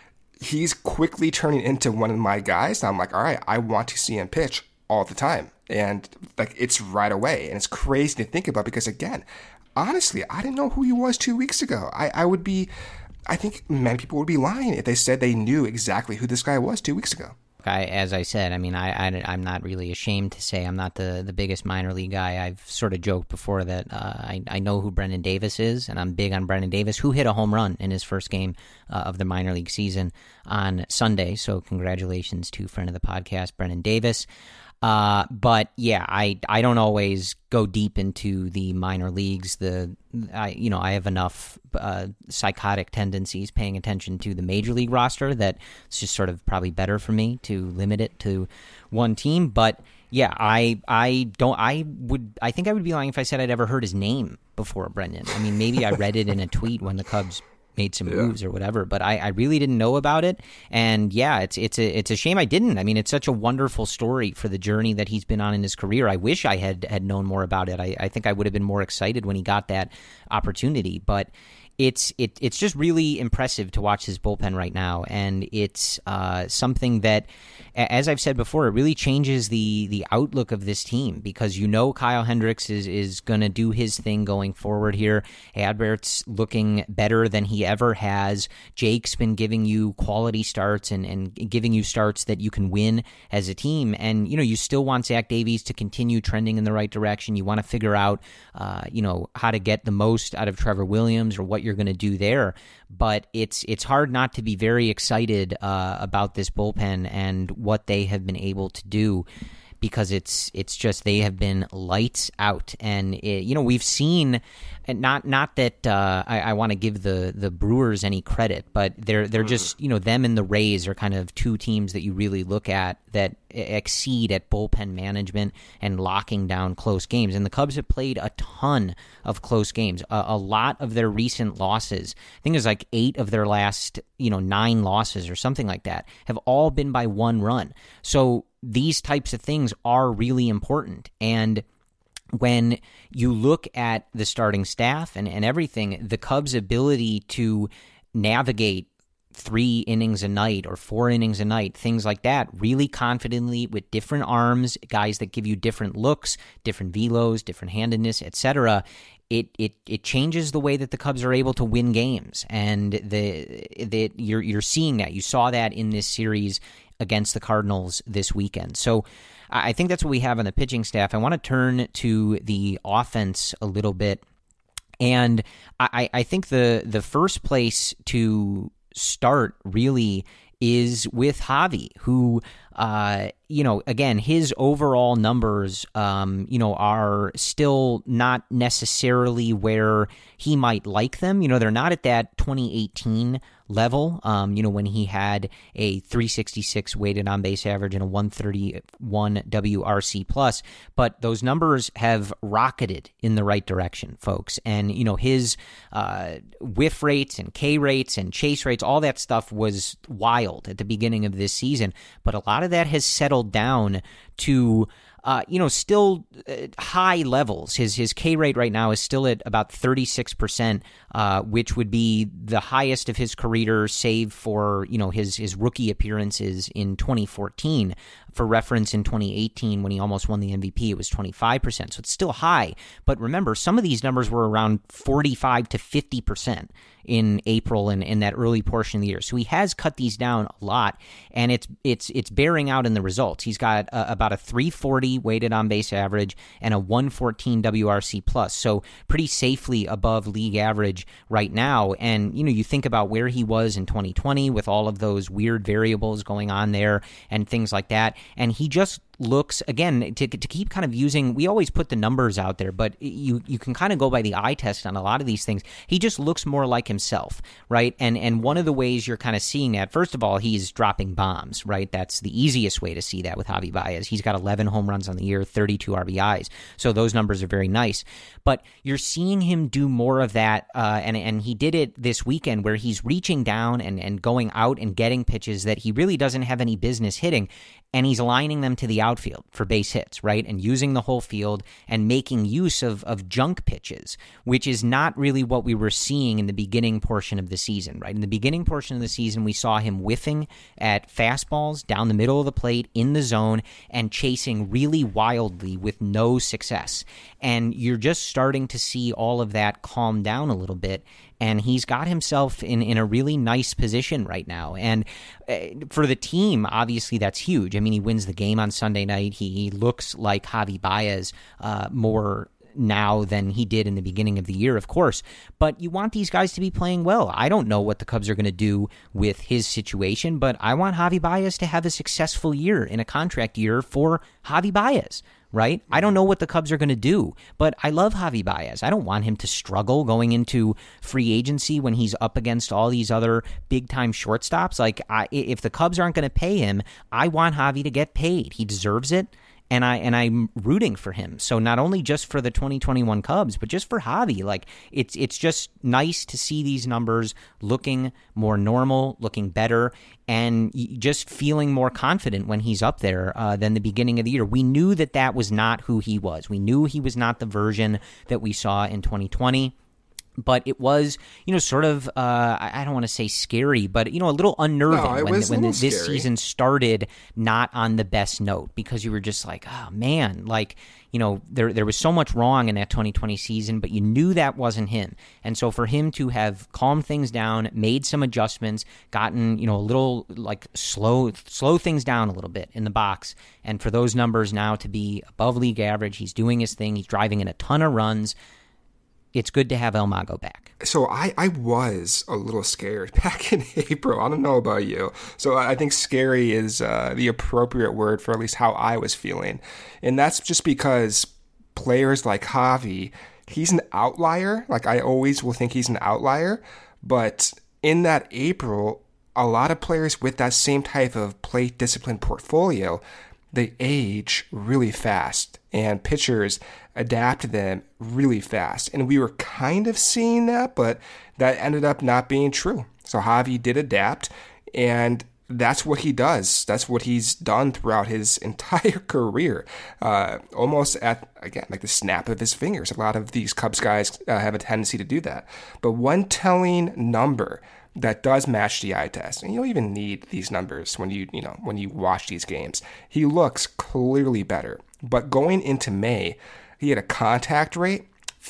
He's quickly turning into one of my guys. I'm like, all right, I want to see him pitch all the time. And like, it's right away. And it's crazy to think about because, again, honestly, I didn't know who he was two weeks ago. I, I would be, I think many people would be lying if they said they knew exactly who this guy was two weeks ago. I, as I said, I mean, I, I, I'm not really ashamed to say I'm not the, the biggest minor league guy. I've sort of joked before that uh, I, I know who Brendan Davis is, and I'm big on Brendan Davis, who hit a home run in his first game uh, of the minor league season on Sunday. So congratulations to friend of the podcast, Brendan Davis. Uh, but yeah, I, I don't always go deep into the minor leagues. The I you know I have enough uh, psychotic tendencies paying attention to the major league roster that it's just sort of probably better for me to limit it to one team. But yeah, I I don't I would I think I would be lying if I said I'd ever heard his name before, Brendan. I mean, maybe I read it in a tweet when the Cubs made some moves yeah. or whatever, but I, I really didn't know about it. And yeah, it's it's a it's a shame I didn't. I mean, it's such a wonderful story for the journey that he's been on in his career. I wish I had had known more about it. I, I think I would have been more excited when he got that opportunity. But it's it it's just really impressive to watch his bullpen right now, and it's uh, something that, as I've said before, it really changes the the outlook of this team because you know Kyle Hendricks is is going to do his thing going forward here. Adbert's looking better than he ever has. Jake's been giving you quality starts and, and giving you starts that you can win as a team, and you know you still want Zach Davies to continue trending in the right direction. You want to figure out uh, you know how to get the most out of Trevor Williams or what you're going to do there, but it's it's hard not to be very excited uh, about this bullpen and what they have been able to do, because it's it's just they have been lights out. And it, you know we've seen, not not that uh, I, I want to give the the Brewers any credit, but they're they're just you know them and the Rays are kind of two teams that you really look at that exceed at bullpen management and locking down close games. And the Cubs have played a ton of close games. A, a lot of their recent losses, I think it was like eight of their last you know nine losses or something like that, have all been by one run. So these types of things are really important. And when you look at the starting staff and, and everything, the Cubs' ability to navigate three innings a night or four innings a night, things like that, really confidently with different arms, guys that give you different looks, different velos, different handedness, et cetera, It, it it changes the way that the Cubs are able to win games, and the the you're you're seeing that. You saw that in this series against the Cardinals this weekend. So I think that's what we have on the pitching staff. I want to turn to the offense a little bit, and I, I think the the first place to start really is with Javi, who, uh, you know, again, his overall numbers, um, you know, are still not necessarily where he might like them. You know, they're not at that twenty eighteen level, um, you know, when he had a three sixty-six weighted on base average and a one thirty-one W R C plus, but those numbers have rocketed in the right direction, folks. And, you know, his uh, whiff rates and K rates and chase rates, all that stuff was wild at the beginning of this season, but a lot of that has settled down to Uh, you know, still uh, high levels. His his K rate right now is still at about thirty-six percent, uh, which would be the highest of his career, save for, you know, his, his rookie appearances in twenty fourteen. For reference, in twenty eighteen, when he almost won the M V P, it was twenty-five percent. So it's still high. But remember, some of these numbers were around forty-five to fifty percent. in April and in that early portion of the year. So he has cut these down a lot, and it's it's it's bearing out in the results. He's got uh, about a three forty weighted on base average and a one fourteen W R C plus, so pretty safely above league average right now. And you know, you think about where he was in twenty twenty with all of those weird variables going on there and things like that, and he just looks, again, to to keep kind of using, we always put the numbers out there, but you you can kind of go by the eye test on a lot of these things. He just looks more like himself, right? And and one of the ways you're kind of seeing that, first of all, he's dropping bombs, right? That's the easiest way to see that with Javi Baez. He's got eleven home runs on the year, thirty-two R B Is, so those numbers are very nice. But you're seeing him do more of that, uh, and and he did it this weekend where he's reaching down and, and going out and getting pitches that he really doesn't have any business hitting, and he's lining them to the outfield for base hits, right? And using the whole field and making use of, of junk pitches, which is not really what we were seeing in the beginning portion of the season, right? In the beginning portion of the season, we saw him whiffing at fastballs down the middle of the plate in the zone and chasing really wildly with no success. And you're just starting to see all of that calm down a little bit. And he's got himself in, in a really nice position right now. And uh, for the team, obviously, that's huge. I mean, he wins the game on Sunday night. He, he looks like Javi Baez uh, more now than he did in the beginning of the year, of course. But you want these guys to be playing well. I don't know what the Cubs are going to do with his situation, but I want Javi Baez to have a successful year in a contract year for Javi Baez. Right? I don't know what the Cubs are going to do, but I love Javi Baez. I don't want him to struggle going into free agency when he's up against all these other big-time shortstops. Like, I, if the Cubs aren't going to pay him, I want Javi to get paid. He deserves it. And I and I'm rooting for him. So not only just for the twenty twenty-one Cubs, but just for Javi. Like, it's it's just nice to see these numbers looking more normal, looking better, and just feeling more confident when he's up there uh, than the beginning of the year. We knew that that was not who he was. We knew he was not the version that we saw in twenty twenty. But it was, you know, sort of, uh, I don't want to say scary, but, you know, a little unnerving no, when, when this scary. season started not on the best note, because you were just like, oh, man, like, you know, there there was so much wrong in that twenty twenty season, but you knew that wasn't him. And so for him to have calmed things down, made some adjustments, gotten, you know, a little, like, slow, slow things down a little bit in the box, and for those numbers now to be above league average, he's doing his thing, he's driving in a ton of runs. It's good to have El Mago back. So I, I was a little scared back in April. I don't know about you. So I think scary is uh, the appropriate word for at least how I was feeling. And that's just because players like Javi, he's an outlier. Like, I always will think he's an outlier. But in that April, a lot of players with that same type of plate discipline portfolio, they age really fast, and pitchers adapt to them really fast. And we were kind of seeing that, but that ended up not being true. So Javi did adapt, and that's what he does. That's what he's done throughout his entire career, uh, almost at, again, like the snap of his fingers. A lot of these Cubs guys uh, have a tendency to do that. But one telling number that does match the eye test, and you don't even need these numbers when you you know when you watch these games. He looks clearly better. But going into May, he had a contact rate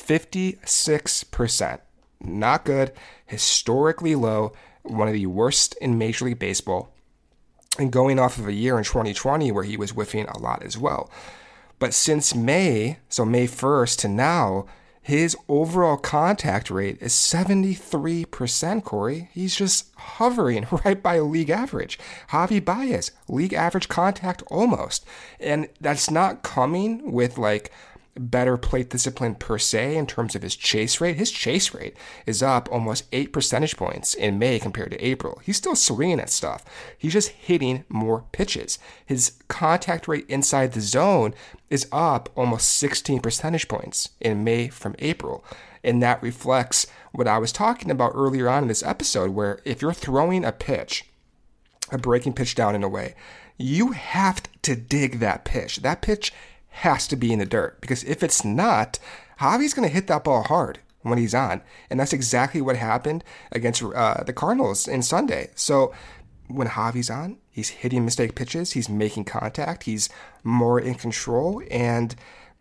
fifty-six percent. Not good, historically low, one of the worst in Major League Baseball. And going off of a year in twenty twenty where he was whiffing a lot as well. But since May, so May first to now, his overall contact rate is seventy-three percent, Corey. He's just hovering right by league average. Javi Baez, league average contact almost. And that's not coming with, like, better plate discipline per se in terms of his chase rate. His chase rate is up almost eight percentage points in May compared to April. He's still swinging at stuff. He's just hitting more pitches. His contact rate inside the zone is up almost sixteen percentage points in May from April. And that reflects what I was talking about earlier on in this episode, where if you're throwing a pitch, a breaking pitch down in a way, you have to dig that pitch. That pitch has to be in the dirt, because if it's not, Javi's going to hit that ball hard when he's on. And that's exactly what happened against uh, the Cardinals in Sunday. So when Javi's on, he's hitting mistake pitches, he's making contact, he's more in control, and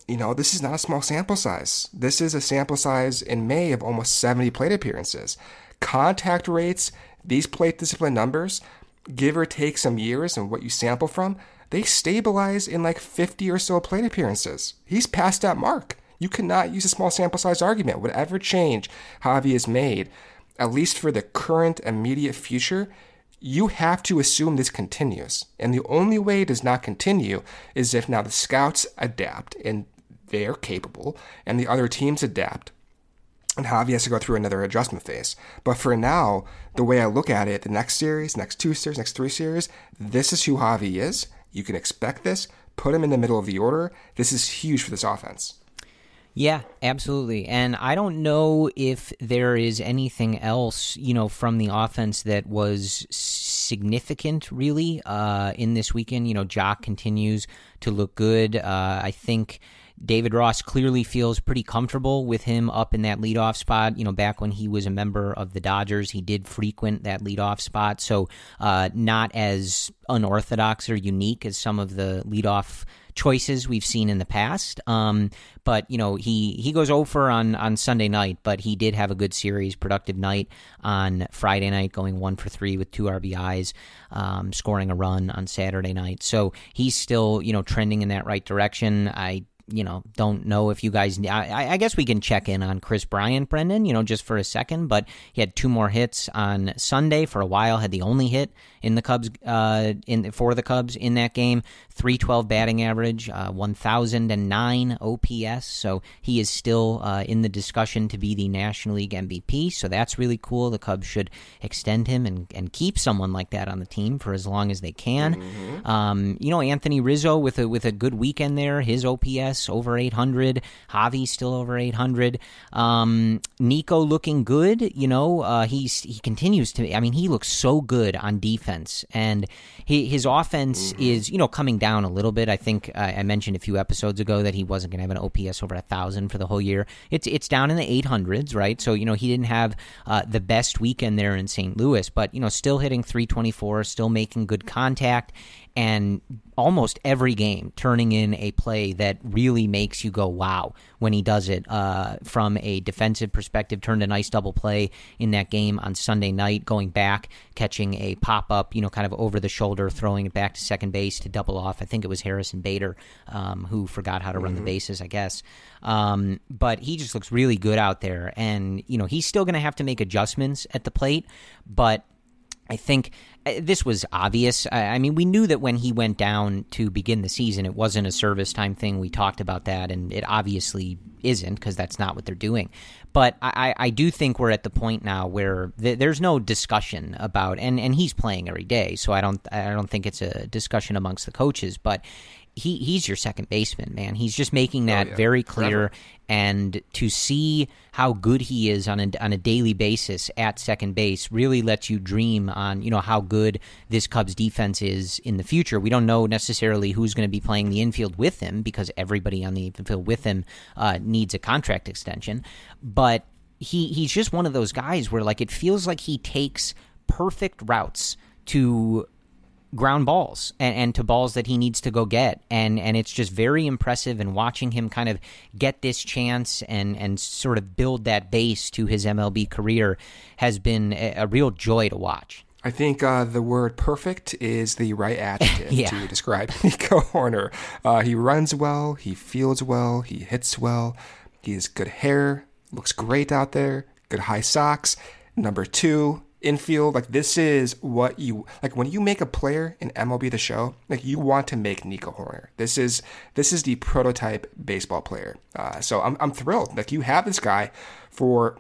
you know, this is not a small sample size. This is a sample size in May of almost seventy plate appearances. Contact rates, these plate discipline numbers, give or take some years and what you sample from, they stabilize in like fifty or so plate appearances. He's past that mark. You cannot use a small sample size argument. Whatever change Javi has made, at least for the current immediate future, you have to assume this continues. And the only way it does not continue is if now the scouts adapt and they're capable and the other teams adapt and Javi has to go through another adjustment phase. But for now, the way I look at it, the next series, next two series, next three series, this is who Javi is. You can expect this. Put him in the middle of the order. This is huge for this offense. Yeah, absolutely. And I don't know if there is anything else, you know, from the offense that was significant, really, uh, in this weekend. You know, Jock continues to look good. Uh, I think David Ross clearly feels pretty comfortable with him up in that leadoff spot. You know, back when he was a member of the Dodgers, he did frequent that leadoff spot. So uh, not as unorthodox or unique as some of the leadoff choices we've seen in the past. Um, but, you know, he, he goes over on, on Sunday night, but he did have a good series, productive night on Friday night, going one for three with two R B Is, um, scoring a run on Saturday night. So he's still, you know, trending in that right direction. I you know, don't know if you guys, I, I guess we can check in on Chris Bryant, Brendan, you know, just for a second, but he had two more hits on Sunday. For a while, had the only hit in the Cubs, uh, in for the Cubs in that game, three twelve batting average, uh, one thousand nine O P S, so he is still uh, in the discussion to be the National League M V P, so that's really cool. The Cubs should extend him and, and keep someone like that on the team for as long as they can. Mm-hmm. Um, you know, Anthony Rizzo with a, with a good weekend there, his O P S over eight hundred. Javi still over eight hundred. Um, Nico looking good. You know, uh, he's he continues to. I mean, he looks so good on defense, and he, his offense mm-hmm. is you know coming down a little bit. I think uh, I mentioned a few episodes ago that he wasn't going to have an O P S over a thousand for the whole year. It's it's down in the eight hundreds, right? So you know he didn't have uh, the best weekend there in Saint Louis, but you know still hitting three twenty-four, still making good contact. And almost every game turning in a play that really makes you go, wow, when he does it. Uh, from a defensive perspective, turned a nice double play in that game on Sunday night, going back, catching a pop-up, you know, kind of over the shoulder, throwing it back to second base to double off. I think it was Harrison Bader um, who forgot how to run mm-hmm. the bases, I guess. Um, but he just looks really good out there. And, you know, he's still going to have to make adjustments at the plate, but I think this was obvious. I mean, we knew that when he went down to begin the season, it wasn't a service time thing. We talked about that, and it obviously isn't because that's not what they're doing. But I, I do think we're at the point now where th- there's no discussion about, and, and he's playing every day, so I don't I don't think it's a discussion amongst the coaches, but he he's your second baseman, man. He's just making that oh, yeah. very clear. Forever. And to see how good he is on a, on a daily basis at second base really lets you dream on, you know, how good this Cubs defense is in the future. We don't know necessarily who's going to be playing the infield with him because everybody on the infield with him uh, needs a contract extension. But he he's just one of those guys where, like, it feels like he takes perfect routes to ground balls and, and to balls that he needs to go get. And and it's just very impressive, and watching him kind of get this chance and, and sort of build that base to his M L B career has been a, a real joy to watch. I think uh, the word perfect is the right adjective yeah. to describe Nico Hoerner. Uh, he runs well, he fields well, he hits well, he has good hair, looks great out there, good high socks. Number two, infield, like this is what you like when you make a player in M L B The Show. Like you want to make Nico Hoerner. This is this is the prototype baseball player. Uh, so I'm I'm thrilled. Like you have this guy for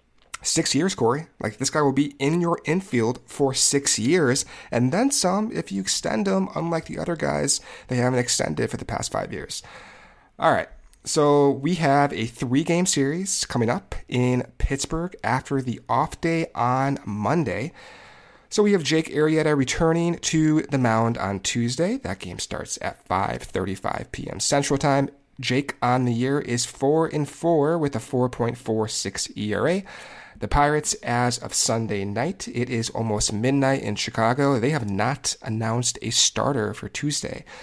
six years, Corey. Like this guy will be in your infield for six years, and then some if you extend him. Unlike the other guys, they haven't extended for the past five years. All right. So we have a three-game series coming up in Pittsburgh after the off day on Monday. So we have Jake Arrieta returning to the mound on Tuesday. That game starts at five thirty-five p.m. Central Time. Jake on the year is four and four with a four point four six E R A. The Pirates, as of Sunday night, it is almost midnight in Chicago. They have not announced a starter for Tuesday.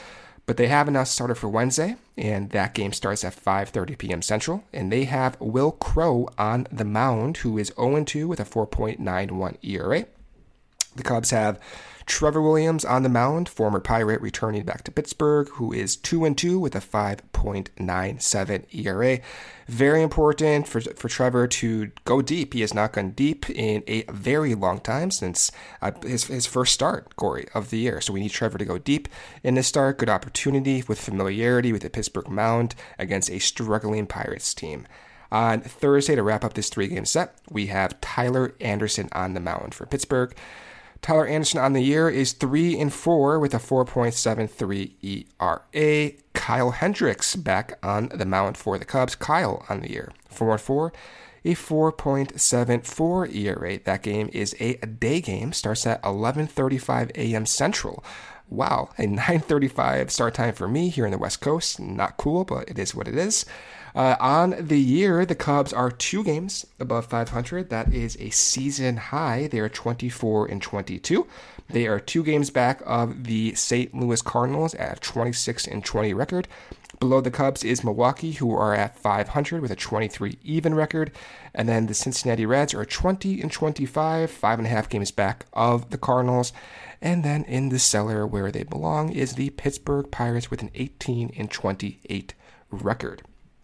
But they have announced starter for Wednesday, and that game starts at five thirty p.m. Central. And they have Will Crowe on the mound, who is oh and two with a four point nine one E R A. The Cubs have Trevor Williams on the mound, former Pirate returning back to Pittsburgh, who is two and two with a five point nine seven E R A. Very important for for Trevor to go deep. He has not gone deep in a very long time since uh, his his first start, Corey, of the year. So we need Trevor to go deep in this start. Good opportunity with familiarity with the Pittsburgh mound against a struggling Pirates team. On Thursday, to wrap up this three-game set, we have Tyler Anderson on the mound for Pittsburgh. Tyler Anderson on the year is three and four with a four point seven three E R A. Kyle Hendricks back on the mound for the Cubs. Kyle on the year, four and four, a four point seven four E R A. That game is a day game. Starts at eleven thirty-five a.m. Central. Wow, a nine thirty-five start time for me here in the West Coast. Not cool, but it is what it is. Uh, on the year, the Cubs are two games above five hundred. That is a season high. They are twenty-four and twenty-two. They are two games back of the Saint Louis Cardinals at a twenty-six and twenty record. Below the Cubs is Milwaukee, who are at five hundred with a twenty-three even record. And then the Cincinnati Reds are twenty and twenty-five, five and a half games back of the Cardinals. And then in the cellar where they belong is the Pittsburgh Pirates with an eighteen and twenty-eight record.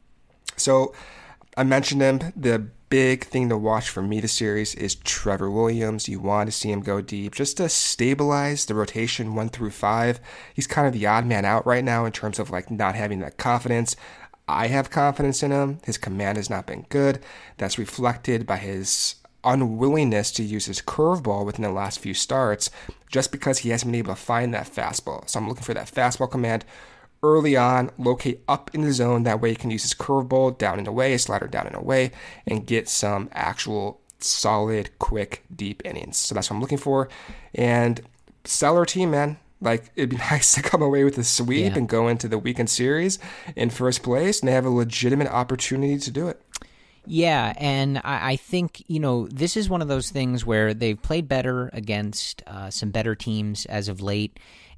So I mentioned him. The big thing to watch for me this series is Trevor Williams. You want to see him go deep just to stabilize the rotation one through five. He's kind of the odd man out right now in terms of like not having that confidence. I have confidence in him. His command has not been good. That's reflected by his unwillingness to use his curveball within the last few starts just because he hasn't been able to find that fastball. So I'm looking for that fastball command early on, locate up in the zone. That way he can use his curveball down and away, slider down and away, and get some actual solid, quick, deep innings. So that's what I'm looking for. And stellar team, man. Like, it'd be nice to come away with a sweep yeah. and go into the weekend series in first place, and they have a legitimate opportunity to do it. Yeah, and I, I think, you know, this is one of those things where they've played better against uh, some better teams as of late,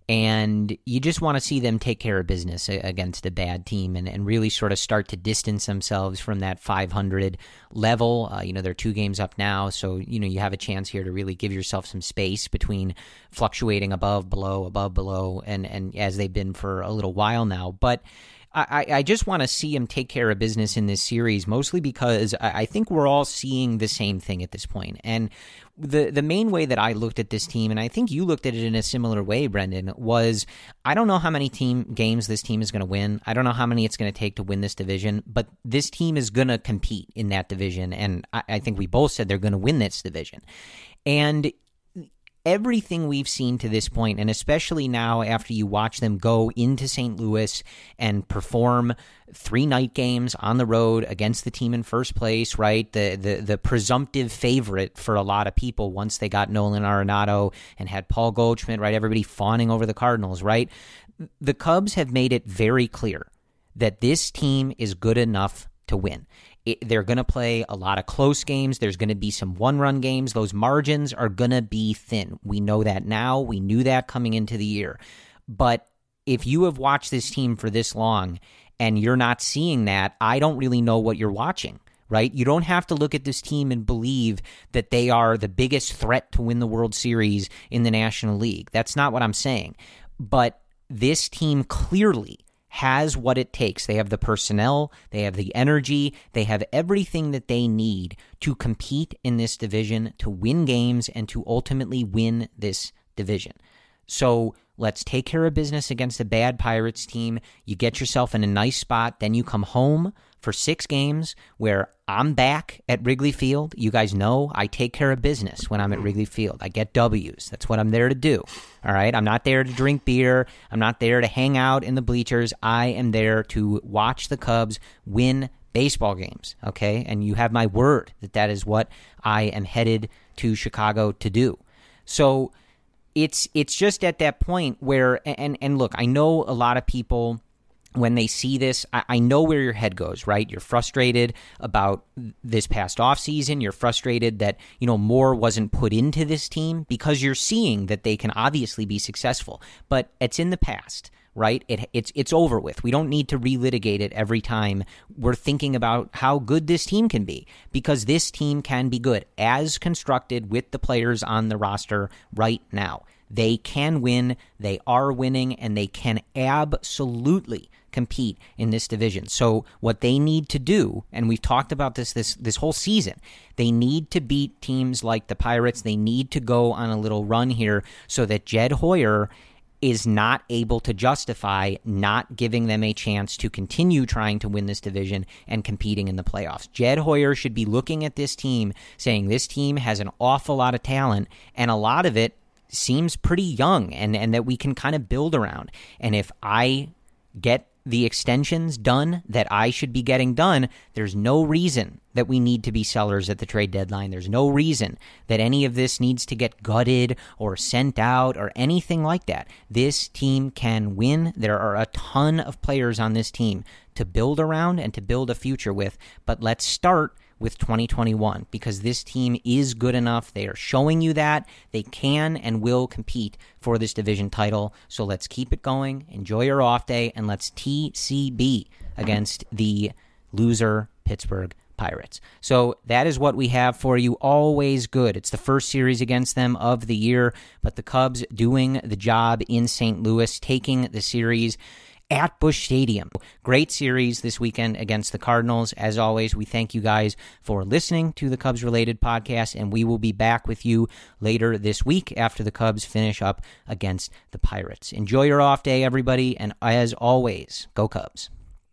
and you just want to see them take care of business against a bad team and, and really sort of start to distance themselves from that five hundred level. Uh, you know, they're two games up now, so, you know, you have a chance here to really give yourself some space between fluctuating above, below, above, below, and, and as they've been for a little while now. But I, I just want to see him take care of business in this series, mostly because I think we're all seeing the same thing at this point. And the the main way that I looked at this team, and I think you looked at it in a similar way, Brendan, was I don't know how many team games this team is going to win. I don't know how many it's going to take to win this division, but this team is going to compete in that division, and I, I think we both said they're going to win this division. And everything we've seen to this point, and especially now after you watch them go into Saint Louis and perform three night games on the road against the team in first place, right? The the the presumptive favorite for a lot of people once they got Nolan Arenado and had Paul Goldschmidt, right? Everybody fawning over the Cardinals, right? The Cubs have made it very clear that this team is good enough to win. It, they're going to play a lot of close games. There's going to be some one-run games. Those margins are going to be thin. We know that now. We knew that coming into the year. But if you have watched this team for this long and you're not seeing that, I don't really know what you're watching, right? You don't have to look at this team and believe that they are the biggest threat to win the World Series in the National League. That's not what I'm saying. But this team clearly has what it takes. They have the personnel, they have the energy, they have everything that they need to compete in this division, to win games, and to ultimately win this division. So let's take care of business against a bad Pirates team. You get yourself in a nice spot, then you come home for six games where I'm back at Wrigley Field. You guys know I take care of business when I'm at Wrigley Field. I get W's. That's what I'm there to do. All right? I'm not there to drink beer. I'm not there to hang out in the bleachers. I am there to watch the Cubs win baseball games, okay? And you have my word that that is what I am headed to Chicago to do. So it's it's just at that point where, and, and look, I know a lot of people, when they see this, I, I know where your head goes, right? You're frustrated about this past offseason. You're frustrated that, you know, more wasn't put into this team because you're seeing that they can obviously be successful. But it's in the past, right? It, it's it's over with. We don't need to relitigate it every time we're thinking about how good this team can be, because this team can be good as constructed with the players on the roster right now. They can win, they are winning, and they can absolutely compete in this division. So what they need to do, and we've talked about this this this whole season, they need to beat teams like the Pirates. They need to go on a little run here so that Jed Hoyer is not able to justify not giving them a chance to continue trying to win this division and competing in the playoffs. Jed Hoyer should be looking at this team saying this team has an awful lot of talent, and a lot of it seems pretty young, and, and that we can kind of build around. And if I get the extensions done that I should be getting done, there's no reason that we need to be sellers at the trade deadline. There's no reason that any of this needs to get gutted or sent out or anything like that. This team can win. There are a ton of players on this team to build around and to build a future with, but let's start with twenty twenty-one, because this team is good enough. They are showing you that they can and will compete for this division title. So let's keep it going. Enjoy your off day, and let's T C B against the loser Pittsburgh Pirates. So that is what we have for you. Always good. It's the first series against them of the year, but the Cubs doing the job in Saint Louis, taking the series at Busch Stadium. Great series this weekend against the Cardinals. As always, we thank you guys for listening to the Cubs-related podcast, and we will be back with you later this week after the Cubs finish up against the Pirates. Enjoy your off day, everybody, and as always, go Cubs.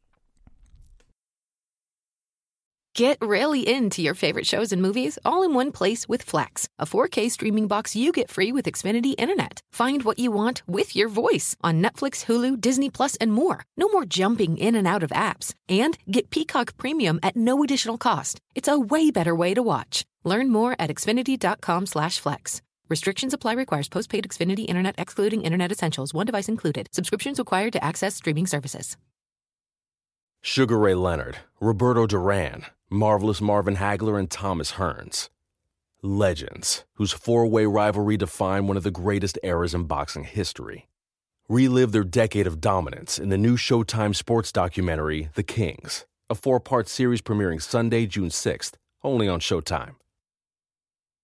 Get really into your favorite shows and movies all in one place with Flex, a four K streaming box you get free with Xfinity Internet. Find what you want with your voice on Netflix, Hulu, Disney Plus, and more. No more jumping in and out of apps. And get Peacock Premium at no additional cost. It's a way better way to watch. Learn more at Xfinity.com slash flex. Restrictions apply. Requires postpaid Xfinity Internet excluding Internet Essentials. One device included. Subscriptions required to access streaming services. Sugar Ray Leonard, Roberto Duran, Marvelous Marvin Hagler, and Thomas Hearns. Legends, whose four-way rivalry defined one of the greatest eras in boxing history. Relive their decade of dominance in the new Showtime sports documentary, The Kings, a four-part series premiering Sunday, June sixth, only on Showtime.